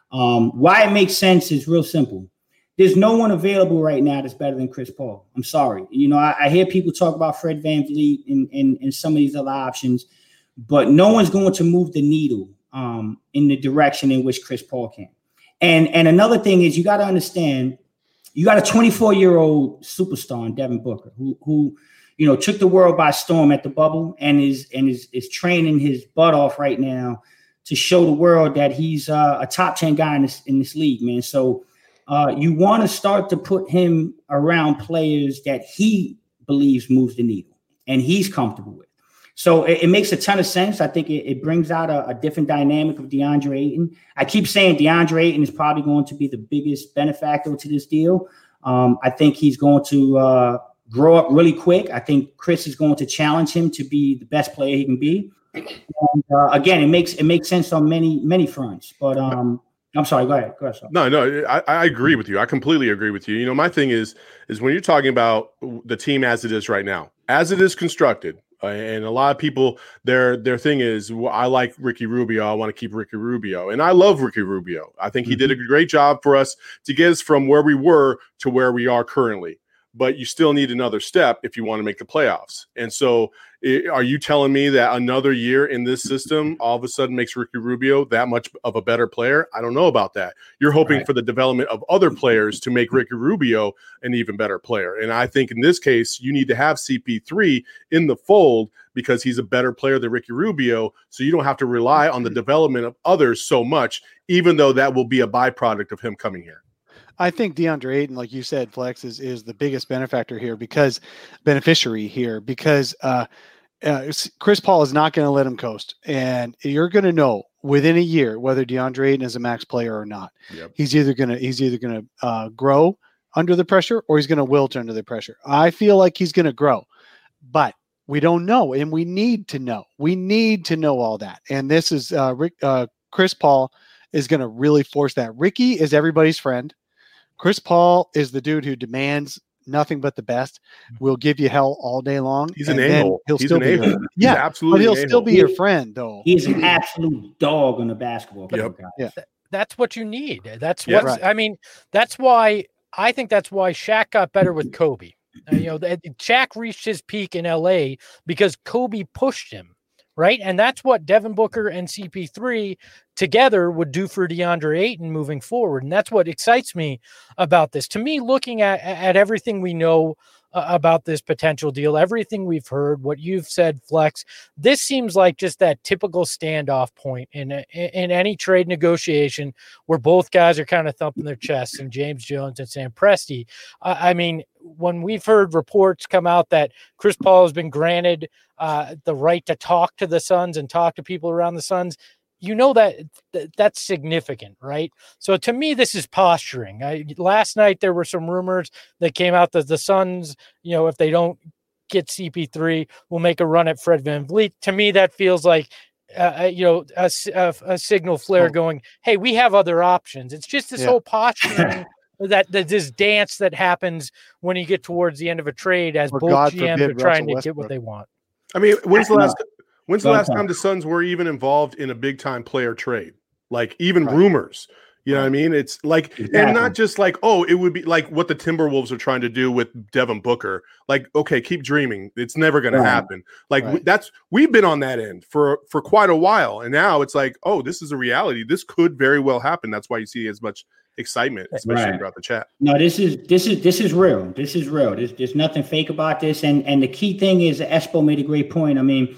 Why it makes sense is real simple. There's no one available right now that's better than Chris Paul. I'm sorry. I hear people talk about Fred VanVleet and some of these other options, but no one's going to move the needle in the direction in which Chris Paul can. And another thing is you got to understand, you got a 24-year-old superstar in Devin Booker who took the world by storm at the bubble and is training his butt off right now to show the world that he's a top 10 guy in this league, man. So you want to start to put him around players that he believes moves the needle and he's comfortable with. So it makes a ton of sense. I think it brings out a different dynamic of DeAndre Ayton. I keep saying DeAndre Ayton is probably going to be the biggest benefactor to this deal. I think he's going to grow up really quick. I think Chris is going to challenge him to be the best player he can be. And, again, it makes sense on many fronts. But I'm sorry. Go ahead. No, I agree with you. I completely agree with you. My thing is when you're talking about the team as it is right now, as it is constructed. And a lot of people, their thing is, well, I like Ricky Rubio. I want to keep Ricky Rubio. And I love Ricky Rubio. I think he did a great job for us to get us from where we were to where we are currently. But you still need another step if you want to make the playoffs. And so are you telling me that another year in this system all of a sudden makes Ricky Rubio that much of a better player? I don't know about that. You're hoping for the development of other players to make Ricky Rubio an even better player. And I think in this case, you need to have CP3 in the fold because he's a better player than Ricky Rubio. So you don't have to rely on the development of others so much, even though that will be a byproduct of him coming here. I think DeAndre Ayton, like you said, Flex, is the biggest beneficiary here because Chris Paul is not going to let him coast. And you're going to know within a year whether DeAndre Ayton is a max player or not. Yep. He's either going to grow under the pressure or he's going to wilt under the pressure. I feel like he's going to grow. But We don't know, and we need to know. We need to know all that. And this is Chris Paul is going to really force that. Ricky is everybody's friend. Chris Paul is the dude who demands nothing but the best. Will give you hell all day long. He's an a-hole. He'll still be yeah, absolutely. But he'll still be your friend, though. He's an absolute dog on the basketball court, guys. Yeah. That's what you need. That's what I mean. That's why I think that's why Shaq got better with Kobe. Shaq reached his peak in LA because Kobe pushed him, right? And that's what Devin Booker and CP3 together would do for DeAndre Ayton moving forward. And that's what excites me about this. To me, looking at everything we know about this potential deal, everything we've heard, what you've said, Flex, this seems like just that typical standoff point in any trade negotiation where both guys are kind of thumping their chests, and James Jones and Sam Presti. I mean, when we've heard reports come out that Chris Paul has been granted the right to talk to the Suns and talk to people around the Suns, that's significant, right? So to me, this is posturing. Last night, there were some rumors that came out that the Suns, if they don't get CP3, will make a run at Fred VanVleet. To me, that feels like, a signal flare going, hey, we have other options. It's just this whole posturing that this dance that happens when you get towards the end of a trade as both GMs are trying to get what they want. I mean, when's the last time the Suns were even involved in a big-time player trade? Like, even rumors. You know what I mean? It's like, and not just like, it would be like what the Timberwolves are trying to do with Devin Booker. Like, okay, keep dreaming. It's never going to happen. Like, we've been on that end for quite a while. And now it's like, this is a reality. This could very well happen. That's why you see as much excitement, especially throughout the chat. No, this is real. This is real. There's nothing fake about this. And the key thing is, Espo made a great point. I mean,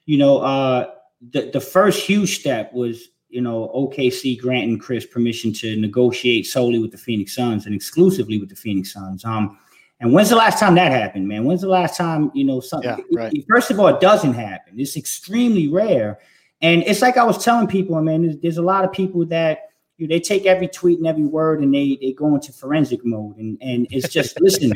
the first huge step was, OKC granting Chris permission to negotiate solely with the Phoenix Suns and exclusively with the Phoenix Suns. And when's the last time that happened, man? When's the last time, something? First of all, it doesn't happen. It's extremely rare. And it's like I was telling people, there's a lot of people that they take every tweet and every word and they go into forensic mode. And it's just, listen,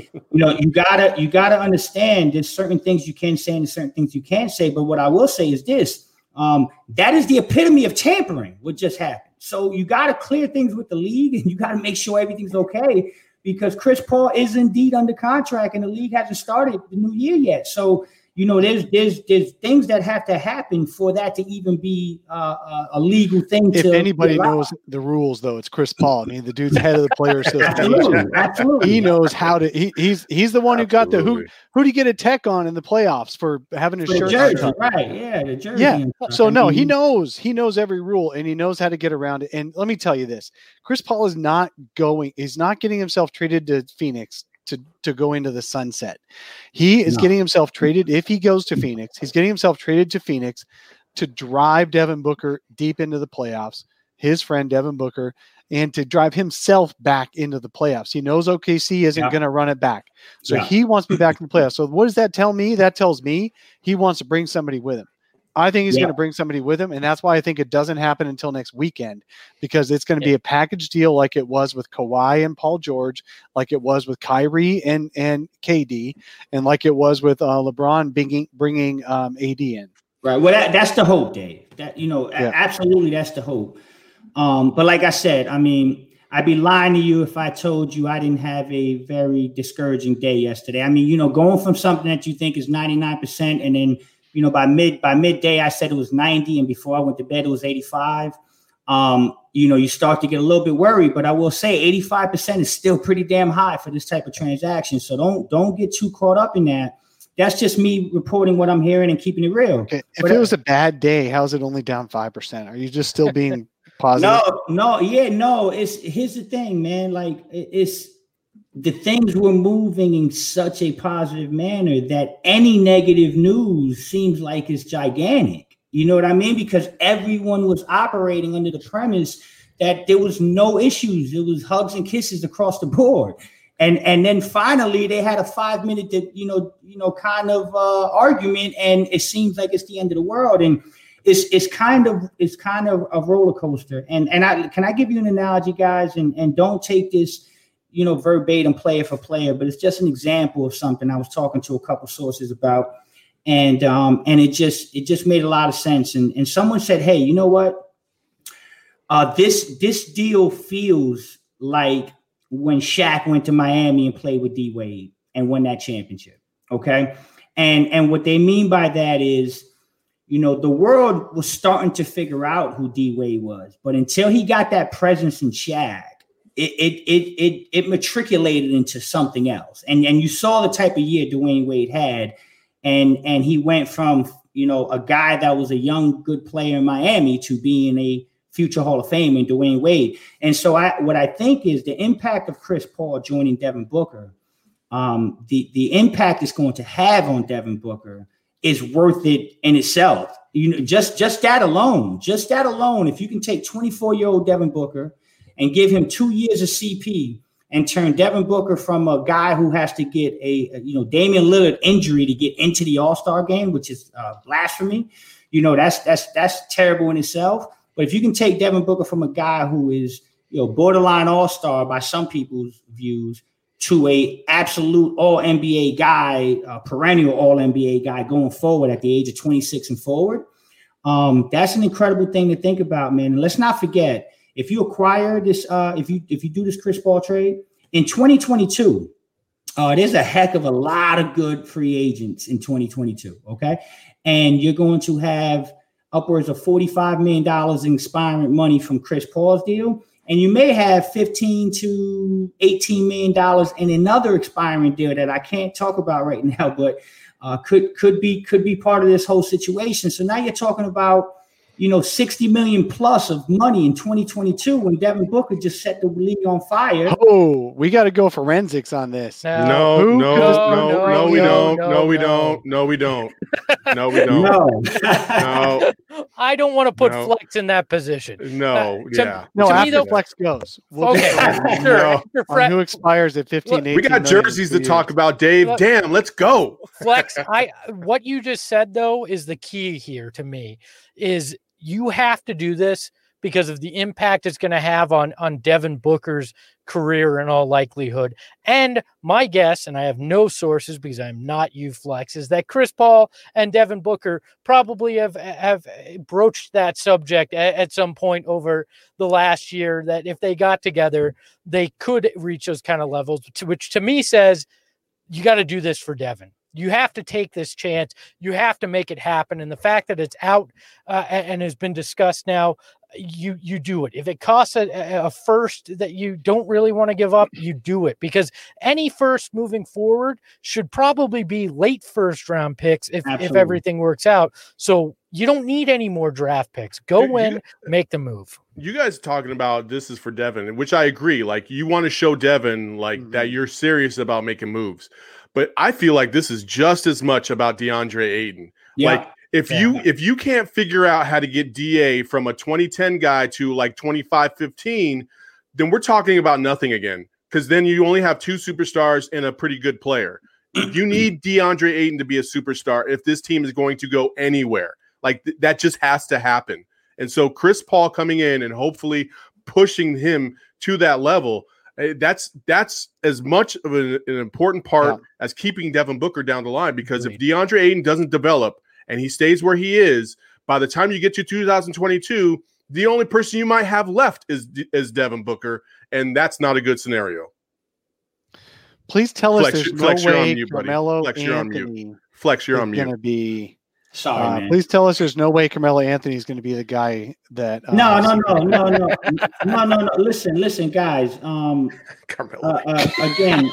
you gotta understand there's certain things you can say and certain things you can't say. But what I will say is this, that is the epitome of tampering, what just happened. So you got to clear things with the league and you got to make sure everything's okay, because Chris Paul is indeed under contract and the league hasn't started the new year yet. So, there's things that have to happen for that to even be a legal thing. If anybody knows the rules, though, it's Chris Paul. I mean, the dude's head of the player system. Absolutely. He knows how to. He's the one who got who did he get a tech on in the playoffs for having his shirt jersey, right? Yeah, the jersey. Yeah. So he knows every rule and he knows how to get around it. And let me tell you this: Chris Paul is not going. He's not getting himself traded to Phoenix to go into the sunset. He is getting himself traded. If he goes to Phoenix, he's getting himself traded to Phoenix to drive Devin Booker deep into the playoffs, his friend Devin Booker, and to drive himself back into the playoffs. He knows OKC isn't going to run it back. So he wants to be back in the playoffs. So what does that tell me? That tells me he wants to bring somebody with him. I think he's going to bring somebody with him, and that's why I think it doesn't happen until next weekend, because it's going to be a package deal like it was with Kawhi and Paul George, like it was with Kyrie and KD, and like it was with LeBron bringing AD in. Right. Well, that's the hope, Dave. That absolutely, that's the hope. But like I said, I'd be lying to you if I told you I didn't have a very discouraging day yesterday. Going from something that you think is 99% and then by midday, I said it was 90. And before I went to bed, it was 85. You start to get a little bit worried, but I will say 85% is still pretty damn high for this type of transaction. So don't get too caught up in that. That's just me reporting what I'm hearing and keeping it real. Okay. If it was a bad day, how's it only down 5%? Are you just still being positive? No. Here's the thing, man. Like the things were moving in such a positive manner that any negative news seems like it's gigantic. You know what I mean? Because everyone was operating under the premise that there was no issues. It was hugs and kisses across the board. And then finally they had a 5-minute, kind of argument, and it seems like it's the end of the world. And it's kind of a roller coaster. And can I give you an analogy, guys? And don't take this, verbatim player for player, but it's just an example of something I was talking to a couple sources about. And it just made a lot of sense. And someone said, hey, you know what? This deal feels like when Shaq went to Miami and played with D Wade and won that championship. Okay. And what they mean by that is, you know, the world was starting to figure out who D Wade was, but until he got that presence in Shaq, it matriculated into something else. And you saw the type of year Dwayne Wade had, and he went from, you know, a guy that was a young, good player in Miami to being a future Hall of Fame in Dwayne Wade. And so what I think is the impact of Chris Paul joining Devin Booker, the impact it's going to have on Devin Booker is worth it in itself. You know, just that alone, if you can take 24-year-old Devin Booker and give him 2 years of CP and turn Devin Booker from a guy who has to get a Damian Lillard injury to get into the All-Star game, which is blasphemy. You know, that's terrible in itself. But if you can take Devin Booker from a guy who is, you know, borderline All-Star by some people's views to a absolute All-NBA guy, perennial All-NBA guy going forward at the age of 26 and forward, that's an incredible thing to think about, man. And let's not forget, if you acquire this, if you do this Chris Paul trade in 2022, there's a heck of a lot of good free agents in 2022. Okay, and you're going to have upwards of $45 million in expiring money from Chris Paul's deal, and you may have $15 to $18 million in another expiring deal that I can't talk about right now, but could be part of this whole situation. So now you're talking about, you know, 60 million plus of money in 2022 when Devin Booker just set the league on fire. Oh, we got to go forensics on this. No, we don't. I don't want to put Flex in that position. After Flex goes. On who expires at 15, 18 we got jerseys to talk about, Dave. Damn, let's go. Flex, what you just said, though, is the key here to me, is you have to do this because of the impact it's going to have on Devin Booker's career in all likelihood. And my guess, and I have no sources because I'm not you, Flex, is that Chris Paul and Devin Booker probably have broached that subject at some point over the last year, that if they got together, they could reach those kind of levels, which to me says you got to do this for Devin. You have to take this chance. You have to make it happen. And the fact that it's out and has been discussed now, you do it. If it costs a first that you don't really want to give up, you do it, because any first moving forward should probably be late first round picks if everything works out. So you don't need any more draft picks. Go make the move. You guys talking about this is for Devin, which I agree. Like, you want to show Devin that you're serious about making moves. But I feel like this is just as much about DeAndre Ayton. Yeah. Like, if you can't figure out how to get DA from a 2010 guy to like 25-15, then we're talking about nothing again. Because then you only have two superstars and a pretty good player. You need DeAndre Ayton to be a superstar if this team is going to go anywhere. Like, that just has to happen. And so Chris Paul coming in and hopefully pushing him to that level, that's as much of an important part as keeping Devin Booker down the line. Because if DeAndre Ayton doesn't develop and he stays where he is, by the time you get to 2022, the only person you might have left is Devin Booker, and that's not a good scenario. Please tell us there's no way Carmelo Anthony Flex, you're on mute. Going to be. Sorry, man. Please tell us there's no way Carmelo Anthony is going to be the guy that. No. Listen, guys. Again.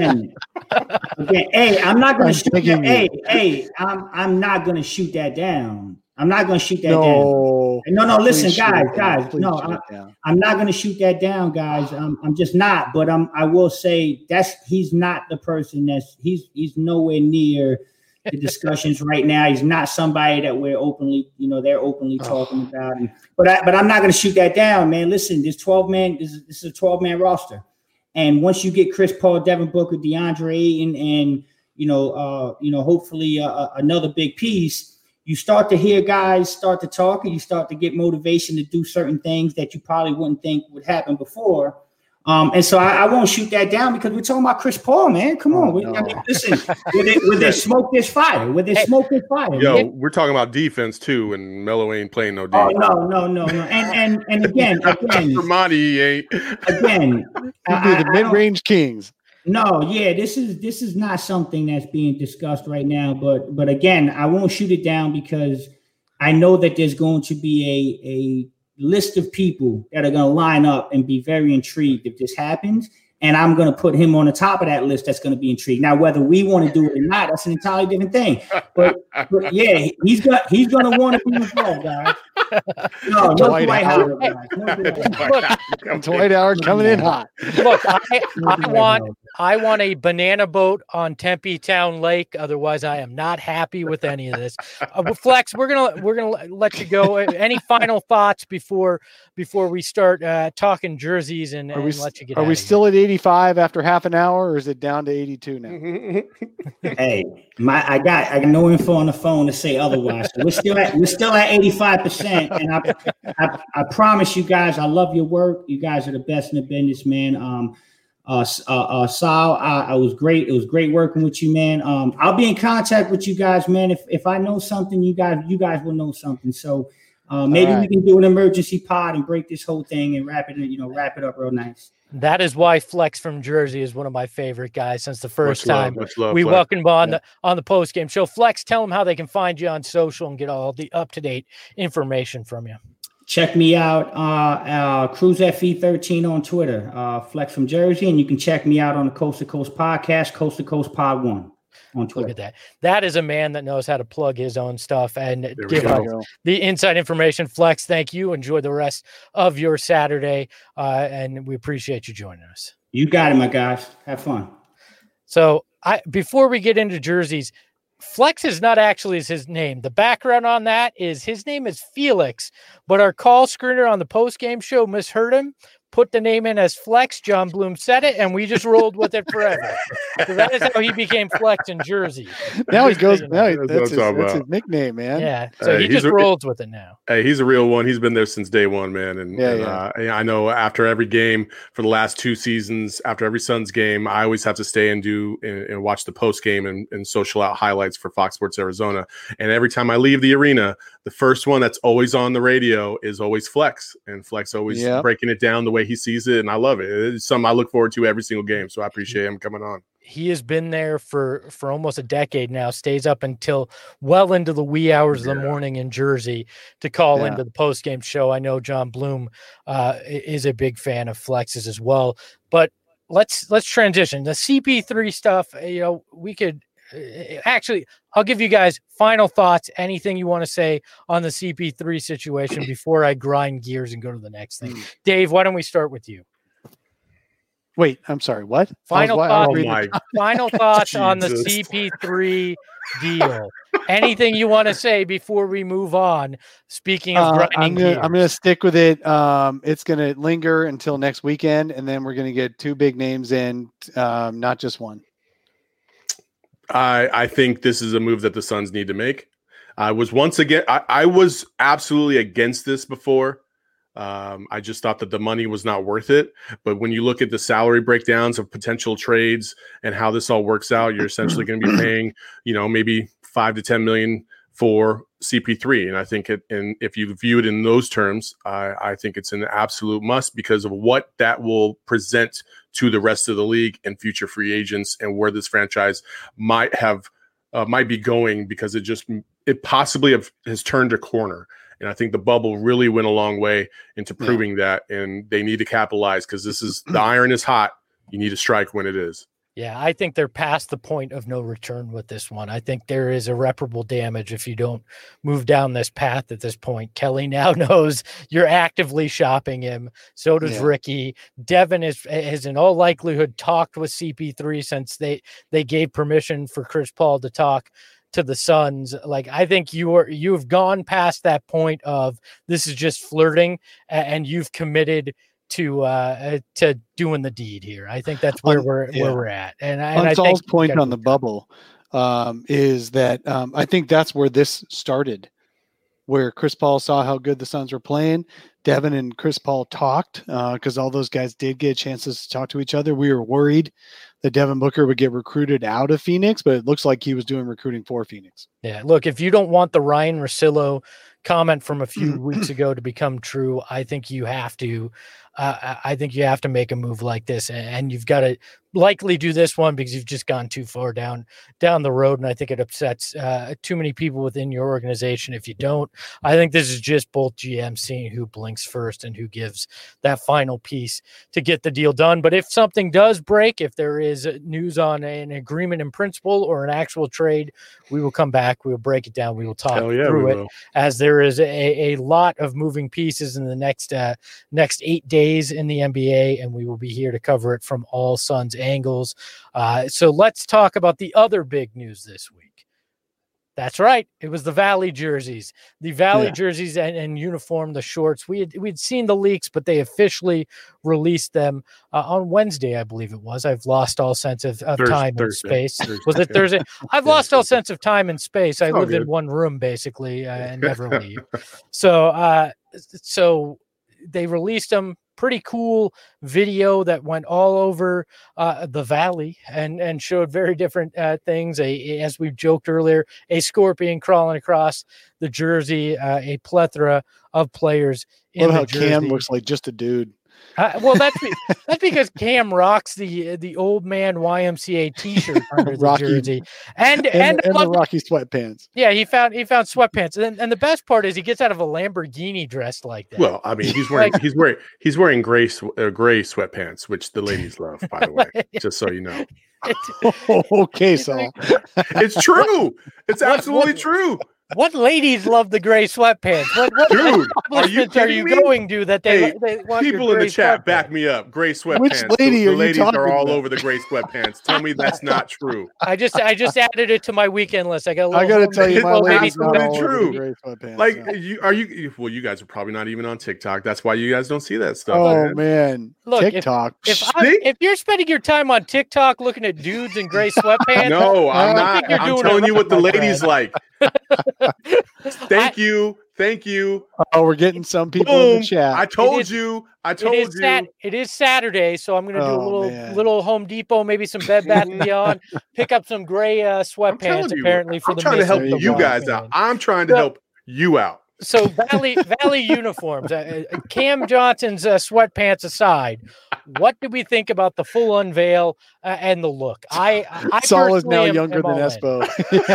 Hey, I'm not going to shoot that. Hey, I'm not going to shoot that down. I'm not going to shoot that down. No. Listen, guys. No, I'm not going to shoot that down, guys. I'm just not. But I will say he's not the person he's nowhere near the discussions right now. He's not somebody that we're openly, they're openly talking about. But I'm not going to shoot that down, man. Listen, this 12-man, this is a 12-man roster. And once you get Chris Paul, Devin Booker, DeAndre Ayton, and hopefully another big piece, you start to hear guys start to talk, and you start to get motivation to do certain things that you probably wouldn't think would happen before. And so I won't shoot that down because we're talking about Chris Paul, man. Come on. I mean, listen, where they smoke, there's fire. Where they smoke, there's fire. Yo, man. we're talking about defense too, and Melo ain't playing no Oh, defense. no. And again, For Monty, he ain't. You do the mid-range Kings. No, yeah, this is not something that's being discussed right now. But again, I won't shoot it down because I know that there's going to be a list of people that are going to line up and be very intrigued if this happens. And I'm going to put him on the top of that list that's going to be intrigued. Now, whether we want to do it or not, that's an entirely different thing. But yeah, he's going to want to be involved, guys. No Dwight Howard. Dwight Howard coming in hot. Look, I want a banana boat on Tempe Town Lake. Otherwise, I am not happy with any of this. Flex, we're gonna let you go. Any final thoughts before we start talking jerseys and let you get? Are we still at 85 after half an hour, or is it down to 82 now? Hey, I got no info on the phone to say otherwise. So we're still at 85%. And I promise you guys, I love your work. You guys are the best in the business, man. Sal, I was great. It was great working with you, man. I'll be in contact with you guys, man. If I know something, you guys will know something. So maybe we can do an emergency pod and break this whole thing and wrap it up real nice. That is why Flex from Jersey is one of my favorite guys since the first time we Flex. welcomed him on the post game show. Flex, tell them how they can find you on social and get all the up-to-date information from you. Check me out, Cruise FE13 on Twitter, Flex from Jersey, and you can check me out on the Coast to Coast podcast, Coast to Coast Pod 1 on Twitter. Look at that. That is a man that knows how to plug his own stuff and give out the inside information. Flex, thank you. Enjoy the rest of your Saturday, and we appreciate you joining us. You got it, my guys. Have fun. So before we get into jerseys, Flex is not actually his name. The background on that is his name is Felix, but our call screener on the post-game show misheard him, put the name in as Flex. John Bloom said it, and we just rolled with it forever. So that is how he became Flex in Jersey. Now he goes. That's his nickname, man. Yeah. So he just rolls with it now. Hey, he's a real one. He's been there since day one, man. And I know after every game for the last 2 seasons, after every Suns game, I always have to stay and watch the post game and social out highlights for Fox Sports Arizona. And every time I leave the arena, the first one that's always on the radio is always Flex, and Flex always breaking it down the way he sees it, and I love it. It's something I look forward to every single game, so I appreciate him coming on. He has been there for almost a decade now, stays up until well into the wee hours of the morning in Jersey to call into the post-game show. I know John Bloom is a big fan of Flex's as well, but let's transition. The CP3 stuff, we could actually, I'll give you guys final thoughts, anything you want to say on the CP3 situation before I grind gears and go to the next thing. Dave, why don't we start with you? Wait, I'm sorry. What? Final thoughts on the CP3 deal. Anything you want to say before we move on? Speaking of grinding gears. I'm going to stick with it. It's going to linger until next weekend, and then we're going to get 2 big names in, not just one. I think this is a move that the Suns need to make. I was absolutely against this before. I just thought that the money was not worth it. But when you look at the salary breakdowns of potential trades and how this all works out, you're essentially going to be paying, maybe $5 to $10 million for CP3. And I think and if you view it in those terms, I think it's an absolute must because of what that will present to the rest of the league and future free agents and where this franchise might be going, because it possibly has turned a corner. And I think the bubble really went a long way into proving that, and they need to capitalize because the iron is hot. You need to strike when it is. Yeah, I think they're past the point of no return with this one. I think there is irreparable damage if you don't move down this path at this point. Kelly now knows you're actively shopping him. So does Ricky. Devin has in all likelihood talked with CP3 since they gave permission for Chris Paul to talk to the Suns. Like, I think you've gone past that point of this is just flirting, and you've committed to doing the deed here. I think that's where we're at. And I Saul's think point on the bubble is that I think that's where this started. where Chris Paul saw how good the Suns were playing. Devin and Chris Paul talked because all those guys did get chances to talk to each other. We were worried that Devin Booker would get recruited out of Phoenix, but it looks like he was doing recruiting for Phoenix. Yeah, look, if you don't want the Ryan Russillo comment from a few weeks ago to become true, I think you have to. I think you have to make a move like this, and you've got to likely do this one because you've just gone too far down the road, and I think it upsets too many people within your organization if you don't. I think this is just both GMs seeing who blinks first and who gives that final piece to get the deal done. But if something does break, if there is news on an agreement in principle or an actual trade, we will come back. We will break it down. We will talk through it as there is a lot of moving pieces in the next 8 days in the NBA, and we will be here to cover it from all Suns angles. So let's talk about the other big news this week. That's right. It was the Valley jerseys, jerseys and uniform, the shorts. We'd seen the leaks, but they officially released them on Wednesday, I believe it was. I've lost all sense of time and space. Was it Thursday? I've lost all sense of time and space. I live in one room basically and never leave. So they released them. Pretty cool video that went all over the Valley and showed very different things. As we joked earlier, a scorpion crawling across the jersey, a plethora of players in the jersey. Cam looks like just a dude. Well, that's because Cam rocks the old man YMCA T-shirt under the jersey, and the Rocky sweatpants. Yeah, he found sweatpants, and the best part is he gets out of a Lamborghini dressed like that. Well, I mean, he's wearing gray sweatpants, which the ladies love, by the way. Just so you know. Okay, Saul. It's true. It's absolutely true. What ladies love the gray sweatpants? What dude, are you going to that they want people in the chat back me up? Gray sweatpants. Which lady the are ladies you talking are all about? over the gray sweatpants. Tell me that's not true. I just added it to my weekend list. I got to tell you, my lady's not all true. over the gray sweatpants. Like you guys are probably not even on TikTok. That's why you guys don't see that stuff. Oh man. Look, TikTok. If you're spending your time on TikTok looking at dudes in gray sweatpants, no, I'm not. I'm telling you what the ladies like. Thank you. Oh, we're getting some people in the chat. I told you. It is Saturday, so I'm going to do a little Home Depot, maybe some Bed Bath & Beyond, pick up some gray sweatpants. Apparently, I'm trying to help you guys out. I'm trying to help you out. So Valley uniforms, Cam Johnson's sweatpants aside, what do we think about the full unveil and the look? I Saul is now younger than Espo.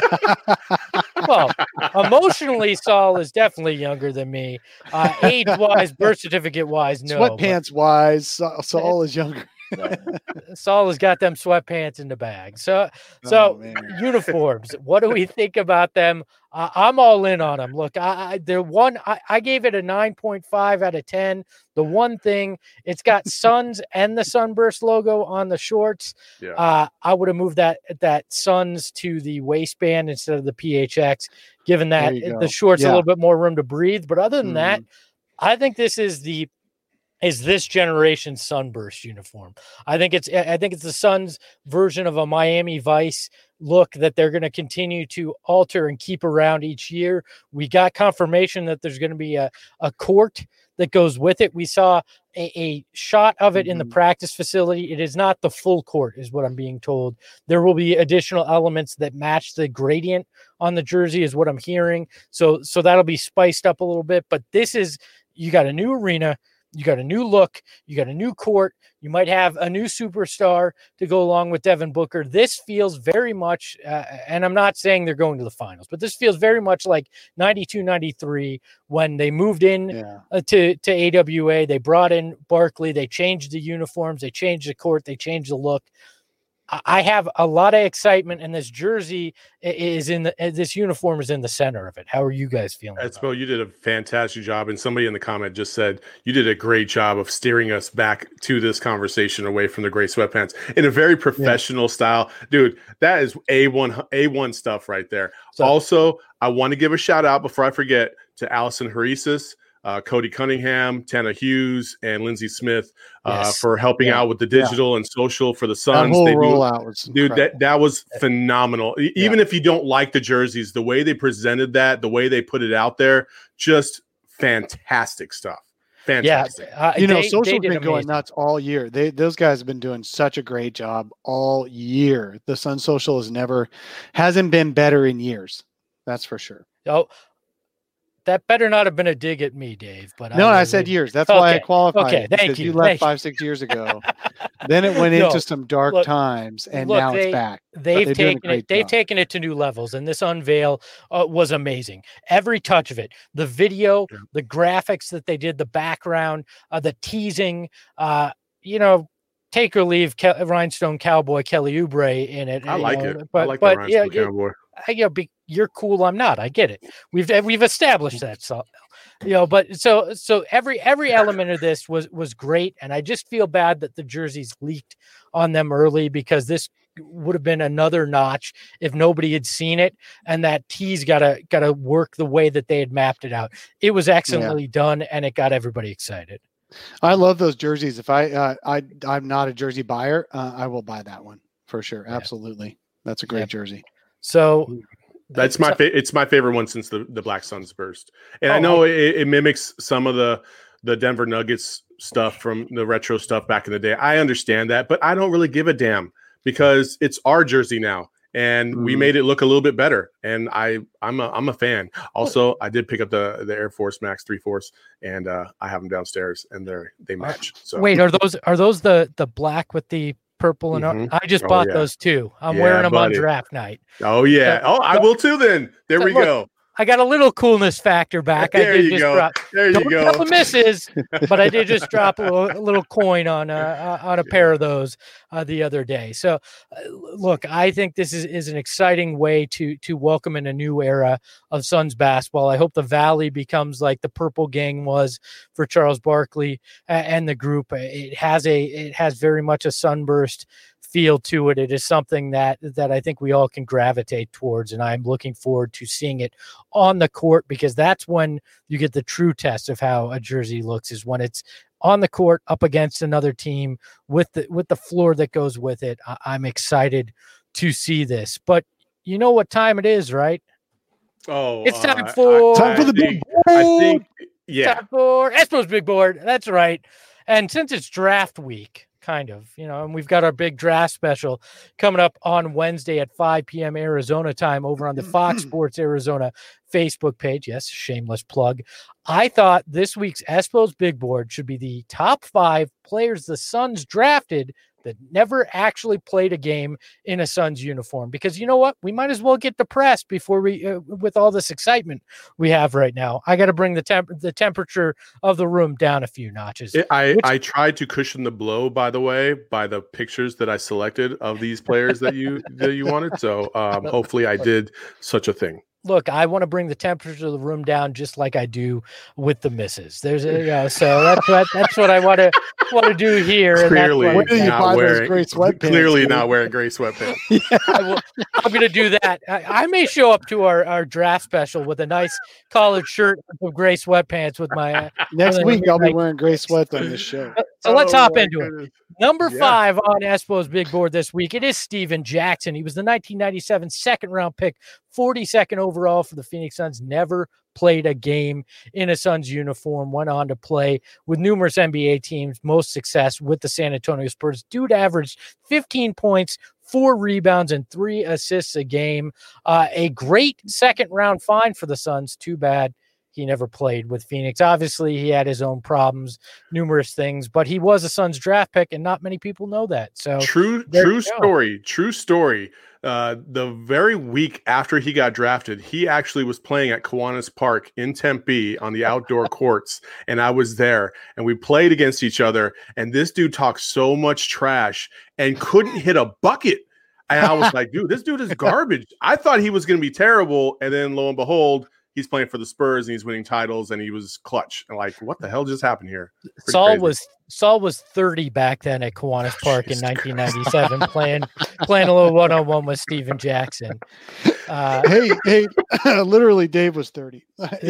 Well, emotionally, Saul is definitely younger than me. Age-wise, birth certificate-wise, no. Sweatpants-wise, Saul is younger. Saul has got them sweatpants in the bag. So uniforms. What do we think about them? I'm all in on them. Look, I gave it a 9.5 out of 10. The one thing, it's got Suns and the Sunburst logo on the shorts. Yeah. I would have moved that Suns to the waistband instead of the PHX, given that the shorts a little bit more room to breathe. But other than that, I think this is this generation's Sunburst uniform. I think it's the Suns version of a Miami Vice look that they're going to continue to alter and keep around each year. We got confirmation that there's going to be a court that goes with it. We saw a shot of it in the practice facility. It is not the full court, is what I'm being told. There will be additional elements that match the gradient on the jersey, is what I'm hearing. So that'll be spiced up a little bit. But you got a new arena. You got a new look. You got a new court. You might have a new superstar to go along with Devin Booker. This feels very much, and I'm not saying they're going to the finals, but this feels very much like 92-93 when they moved in to AWA. They brought in Barkley. They changed the uniforms. They changed the court. They changed the look. I have a lot of excitement, and this jersey this uniform is in the center of it. How are you guys feeling? Espo, you did a fantastic job, and somebody in the comment just said you did a great job of steering us back to this conversation away from the gray sweatpants in a very professional style. Dude, that is A1 stuff right there. So, also, I want to give a shout out before I forget to Allison Harisis. Cody Cunningham, Tana Hughes, and Lindsey Smith Yes. for helping out with the digital and social for the Suns. That whole rollout was incredible. That was phenomenal. Even if you don't like the jerseys, the way they presented that, the way they put it out there, just fantastic stuff. Fantastic. Yeah, social's been going nuts all year. Those guys have been doing such a great job all year. The Sun Social hasn't been better in years. That's for sure. Oh, that better not have been a dig at me, Dave. But no, I said years. That's why I qualified. Okay, thank you. You left 5-6 years ago. Then it went into some dark times, and now it's back. They've taken it to new levels, and this unveil was amazing. Every touch of it, the video, the graphics that they did, the background, the teasing. Take or leave Rhinestone Cowboy Kelly Oubre in it. I like it. I like the Rhinestone Cowboy. You're cool. I'm not. I get it. We've established that. So, but so every element of this was great, and I just feel bad that the jerseys leaked on them early, because this would have been another notch if nobody had seen it, and that tease gotta work the way that they had mapped it out. It was excellently done, and it got everybody excited. I love those jerseys. If I'm not a jersey buyer, I will buy that one for sure. Absolutely, that's a great jersey. So. It's my favorite one since the Black Suns burst. And I know it mimics some of the Denver Nuggets stuff from the retro stuff back in the day. I understand that, but I don't really give a damn, because it's our jersey now, and we made it look a little bit better. And I'm a fan. Also, I did pick up the Air Force Max 3/4, and I have them downstairs, and they match. So wait, are those the black with the purple and I just bought those too. I'm wearing them on draft night. Oh yeah. I will too then. There we go. I got a little coolness factor back. There you go. Don't tell the missus, but I did just drop a little coin on a pair of those the other day. So, look, I think this is an exciting way to welcome in a new era of Suns basketball. I hope the Valley becomes like the Purple Gang was for Charles Barkley and the group. It has very much a sunburst feel to it. It is something that I think we all can gravitate towards, and I'm looking forward to seeing it on the court, because that's when you get the true test of how a jersey looks, is when it's on the court up against another team with the floor that goes with it. I'm excited to see this, but you know what time it is, right? Oh, it's time for the big board. I think time for Espo's big board. That's right. And since it's draft week, kind of, and we've got our big draft special coming up on Wednesday at 5 p.m. Arizona time over on the Fox Sports Arizona Facebook page. Yes, shameless plug. I thought this week's Espo's Big Board should be the top 5 players the Suns drafted that never actually played a game in a Suns uniform, because you know what? We might as well get depressed before with all this excitement we have right now. I got to bring the temperature of the room down a few notches. I tried to cushion the blow, by the way, by the pictures that I selected of these players that you wanted. So hopefully I did such a thing. Look, I want to bring the temperature of the room down just like I do with the misses. So that's what I want to do here. Clearly, and not wearing gray sweatpants. I'm going to do that. I may show up to our draft special with a nice collared shirt with gray sweatpants with my next week. I'll be wearing gray sweats on this show. So let's hop into it. Number 5 on Espo's Big Board this week, it is Steven Jackson. He was the 1997 second-round pick, 42nd overall for the Phoenix Suns. Never played a game in a Suns uniform. Went on to play with numerous NBA teams. Most success with the San Antonio Spurs. Dude averaged 15 points, 4 rebounds, and 3 assists a game. A great second-round find for the Suns. Too bad he never played with Phoenix. Obviously, he had his own problems, numerous things, but he was a Suns draft pick, and not many people know that. So true story. The very week after he got drafted, he actually was playing at Kiwanis Park in Tempe on the outdoor courts, and I was there, and we played against each other, and this dude talked so much trash and couldn't hit a bucket. And I was like, dude, this dude is garbage. I thought he was going to be terrible, and then lo and behold, he's playing for the Spurs and he's winning titles, and he was clutch. And like, what the hell just happened here? Saul was 30 back then at Kiwanis Park in 1997, playing a little one-on-one with Steven Jackson. Hey, literally, Dave was 30.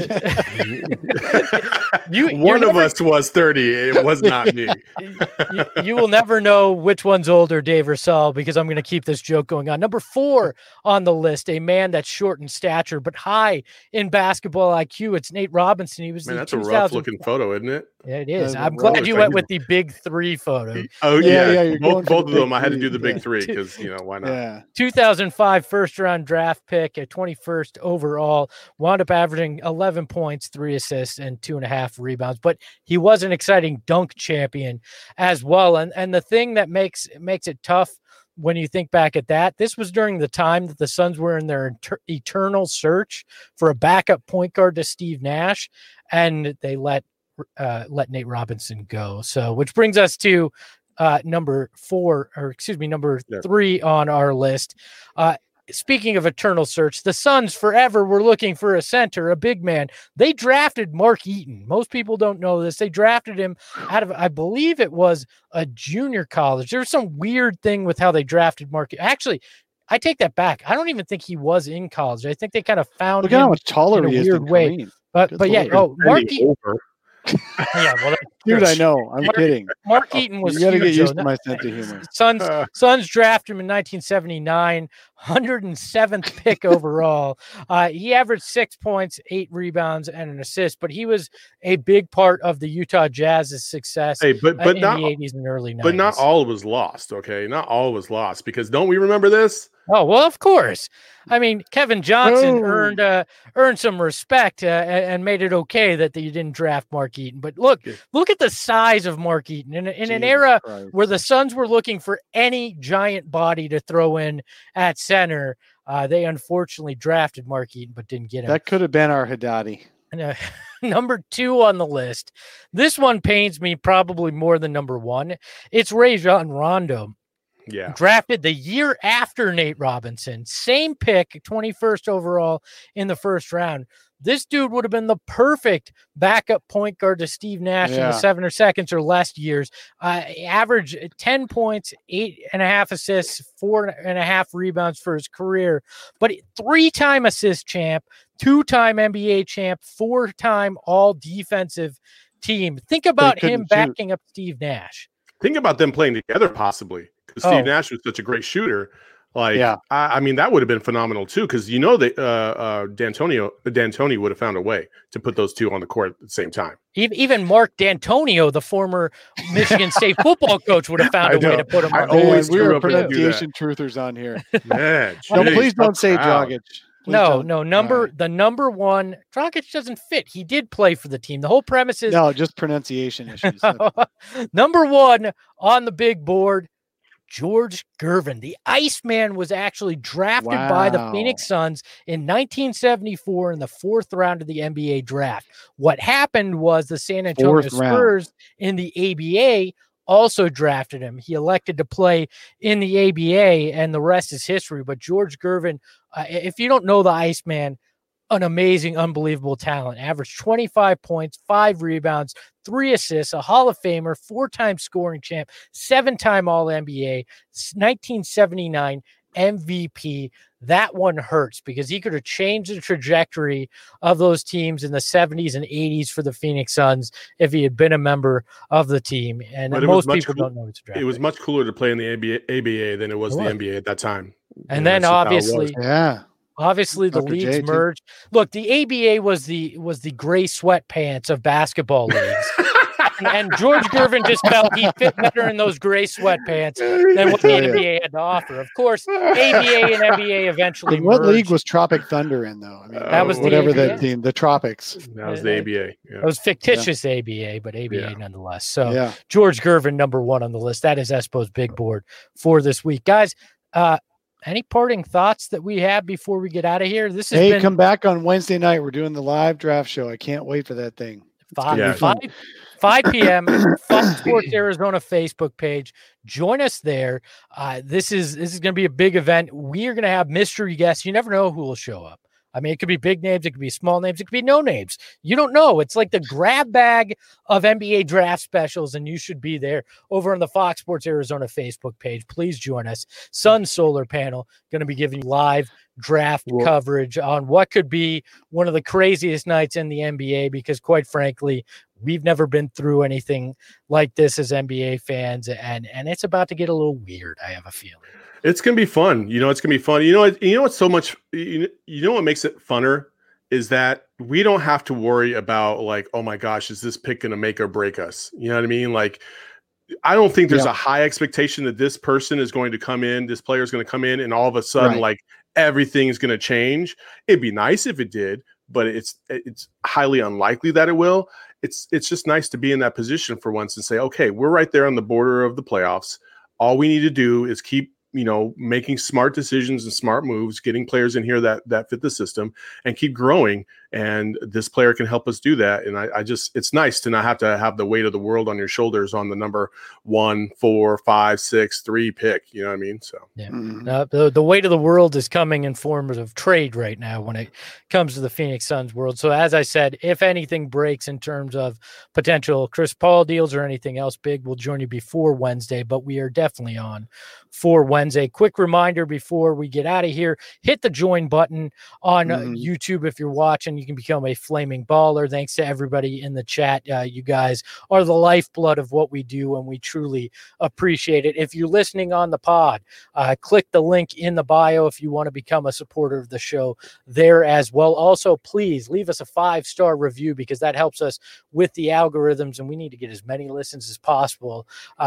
One of us was 30. It was not me. You will never know which one's older, Dave or Saul, because I'm going to keep this joke going on. Number 4 on the list, a man that's short in stature but high in basketball IQ. It's Nate Robinson. He was that's a rough looking photo, isn't it? Yeah, it is. I'm glad you went with the big 3 photo. Oh yeah. Both of them. I had to do the big 3 because why not? Yeah. 2005 first round draft pick at 21st overall, wound up averaging 11 points, 3 assists, and 2.5 rebounds. But he was an exciting dunk champion as well. And the thing that makes it tough when you think back at that, this was during the time that the Suns were in their eternal search for a backup point guard to Steve Nash, and they let Nate Robinson go. So, which brings us to number 3 on our list. Speaking of eternal search, the Suns forever were looking for a center, a big man. They drafted Mark Eaton. Most people don't know this. They drafted him out of, I believe it was a junior college. There's some weird thing with how they drafted Mark. Actually, I take that back. I don't even think he was in college. I think they kind of found Look him at how much taller in he a is weird than way. Kareem. But yeah, Mark Eaton. Yeah, well, Dude, I know. I'm kidding. Mark Eaton was You got to get huge, used though. to my sense of humor. Suns drafted him in 1979, 107th pick overall. He averaged 6 points, 8 rebounds, and an assist, but he was a big part of the Utah Jazz's success but in not, the 80s and early 90s. But not all was lost, okay? Not all was lost, because don't we remember this? Oh, well, of course. I mean, Kevin Johnson earned some respect and made it okay that you didn't draft Mark Eaton. But look at the size of Mark Eaton. In an era where the Suns were looking for any giant body to throw in at center, they unfortunately drafted Mark Eaton but didn't get him. That could have been our Haddadi. Number 2 on the list. This one pains me probably more than number 1. It's Rajon Rondo. Yeah. Drafted the year after Nate Robinson. Same pick, 21st overall in the first round. This dude would have been the perfect backup point guard to Steve Nash in the 7 or seconds or less years. Average 10 points, 8.5 assists, 4.5 rebounds for his career. But 3-time assist champ, 2-time NBA champ, 4-time all defensive team. Think about him backing up Steve Nash. Think about them playing together possibly. Because Steve Nash was such a great shooter. I mean, that would have been phenomenal too. Because D'Antoni would have found a way to put those two on the court at the same time. Even Mark D'Antonio, the former Michigan State football coach, would have found a way to put him on. We are pronunciation truthers on here. Man, please don't say Dragic. The number 1, Dragic doesn't fit. He did play for the team. The whole premise is just pronunciation issues. Number 1 on the big board. George Gervin. The Iceman was actually drafted by the Phoenix Suns in 1974 in the 4th round of the NBA draft. What happened was the San Antonio Spurs in the ABA also drafted him. He elected to play in the ABA, and the rest is history. But George Gervin, if you don't know the Iceman, an amazing, unbelievable talent. Averaged 25 points, 5 rebounds, 3 assists, a Hall of Famer, 4-time scoring champ, 7-time All-NBA, 1979 MVP. That one hurts because he could have changed the trajectory of those teams in the 70s and 80s for the Phoenix Suns if he had been a member of the team. And most people don't know it's a draft. It was much cooler to play in the ABA than it was the NBA at that time. And then obviously the leagues merged. Look, the ABA was the gray sweatpants of basketball leagues. and George Gervin just felt he fit better in those gray sweatpants than what the NBA had to offer. Of course, ABA and NBA eventually What merged. league was Tropic Thunder in, though? I mean, that was whatever the that team, the Tropics. That was the ABA. It was fictitious ABA, but ABA nonetheless. So George Gervin, number 1 on the list. That is Espo's big board for this week. Guys, any parting thoughts that we have before we get out of here? This has come back on Wednesday night. We're doing the live draft show. I can't wait for that thing. 5 p.m. Fox Sports Arizona Facebook page. Join us there. This is going to be a big event. We are going to have mystery guests. You never know who will show up. I mean, it could be big names, it could be small names, it could be no names. You don't know. It's like the grab bag of NBA draft specials, and you should be there over on the Fox Sports Arizona Facebook page. Please join us. Sun Solar Panel going to be giving you live draft coverage on what could be one of the craziest nights in the NBA, because quite frankly, we've never been through anything like this as NBA fans, and it's about to get a little weird, I have a feeling. It's going to be fun. It's going to be fun. What's so much, what makes it funner is that we don't have to worry about like, oh my gosh, is this pick going to make or break us? You know what I mean? Like, I don't think there's a high expectation that this person is going to come in, this player is going to come in, and all of a sudden, like, everything's going to change. It'd be nice if it did, but it's highly unlikely that it will. It's just nice to be in that position for once and say, okay, we're right there on the border of the playoffs. All we need to do is keep, making smart decisions and smart moves, getting players in here that fit the system, and keep growing. And this player can help us do that. And it's nice to not have to have the weight of the world on your shoulders on the number 1, 4, 5, 6, 3 pick. You know what I mean? So the weight of the world is coming in forms of trade right now when it comes to the Phoenix Suns world. So as I said, if anything breaks in terms of potential Chris Paul deals or anything else big, we'll join you before Wednesday, but we are definitely on for Wednesday. Quick reminder before we get out of here, hit the join button on YouTube if you're watching. You can become a flaming baller. Thanks to everybody in the chat. You guys are the lifeblood of what we do, and we truly appreciate it. If you're listening on the pod, click the link in the bio if you want to become a supporter of the show there as well. Also, please leave us a 5-star review, because that helps us with the algorithms, and we need to get as many listens as possible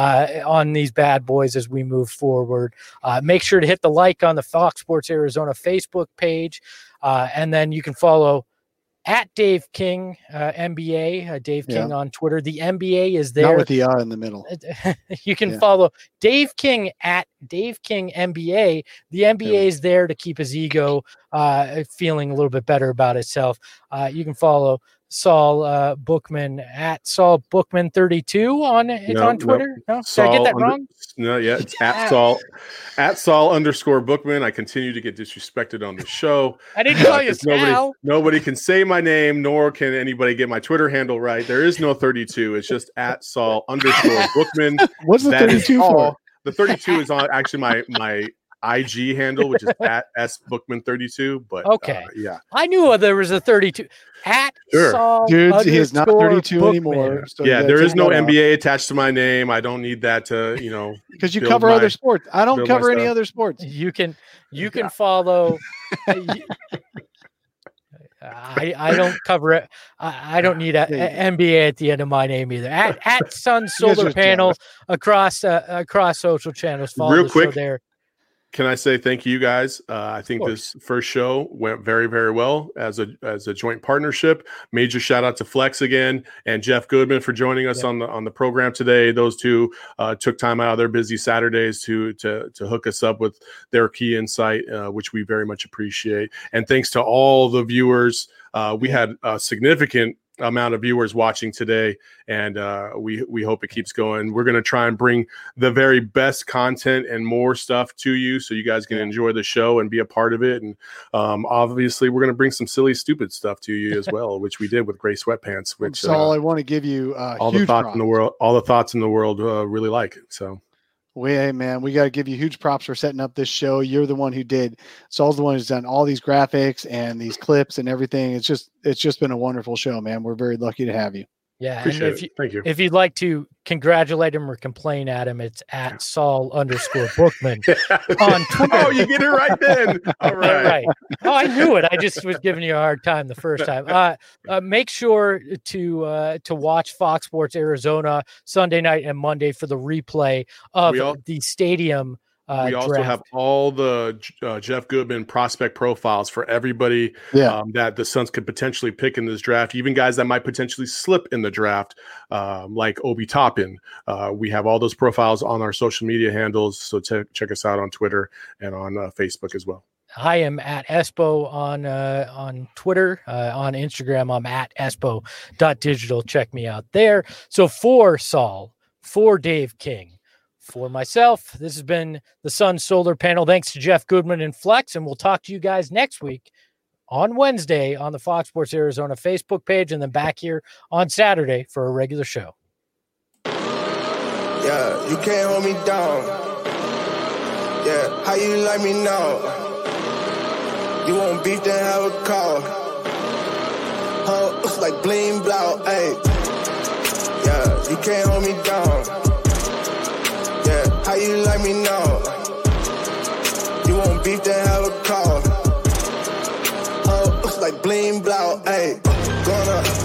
on these bad boys as we move forward. Make sure to hit the like on the Fox Sports Arizona Facebook page, and then you can follow at Dave King NBA, Dave King on Twitter. The NBA is there. Not with the in the middle. You can follow Dave King at Dave King NBA. The NBA is there to keep his ego feeling a little bit better about itself. You can follow Saul Bookman at Saul Bookman 32 on Twitter. No, did I get that wrong? No, it's at Saul @Saul_Bookman. I continue to get disrespected on the show. I didn't call you Sal. Nobody can say my name, nor can anybody get my Twitter handle right. There is no 32. It's just at @Saul_Bookman. What's the 32 for? The 32 is on actually my IG handle, which is at @SBookman32. But okay, I knew there was a 32 at Saul. Dude, he is not 32 Bookman anymore. So there is no NBA attached to my name. I don't need that to, because you cover other sports. I don't cover any other sports. You can follow. I don't cover it. I don't need a NBA at the end of my name either. At Sun Solar Panel across social channels. Follow real the quick show there. Can I say thank you guys? I think this first show went very, very well as a joint partnership. Major shout out to Flex again and Jeff Goodman for joining us on the program today. Those two took time out of their busy Saturdays to hook us up with their key insight, which we very much appreciate. And thanks to all the viewers. We had a significant amount of viewers watching today, and we hope it keeps going. We're going to try and bring the very best content and more stuff to you so you guys can enjoy the show and be a part of it. And obviously we're going to bring some silly, stupid stuff to you as well, which we did with Gray Sweatpants, which Saul, I want to give you all the thoughts in the world really like it. So hey, man, we got to give you huge props for setting up this show. You're the one who did. Saul's the one who's done all these graphics and these clips and everything. It's just been a wonderful show, man. We're very lucky to have you. Yeah, appreciate and thank you. If you'd like to congratulate him or complain at him, it's at Saul_Bookman on Twitter. Oh, you get it right then. All right. Oh, I knew it. I just was giving you a hard time the first time. Make sure to watch Fox Sports Arizona Sunday night and Monday for the replay of the stadium. We also draft. have all the Jeff Goodman prospect profiles for everybody that the Suns could potentially pick in this draft, even guys that might potentially slip in the draft, like Obi Toppin. We have all those profiles on our social media handles, so check us out on Twitter and on Facebook as well. I am at Espo on Twitter. On Instagram, I'm at espo.digital. Check me out there. So for Saul, for Dave King, for myself, this has been the Sun Solar Panel. Thanks to Jeff Goodman and Flex, and we'll talk to you guys next week on Wednesday on the Fox Sports Arizona Facebook page, and then back here on Saturday for a regular show. Yeah, you can't hold me down. Yeah, how you like me now? You want beef, then have a call. Looks like bling blow, ayy. Yeah, you can't hold me down. Yeah, how you like me now? You want beef, then have a call. Looks like bling blow, ayy. Gonna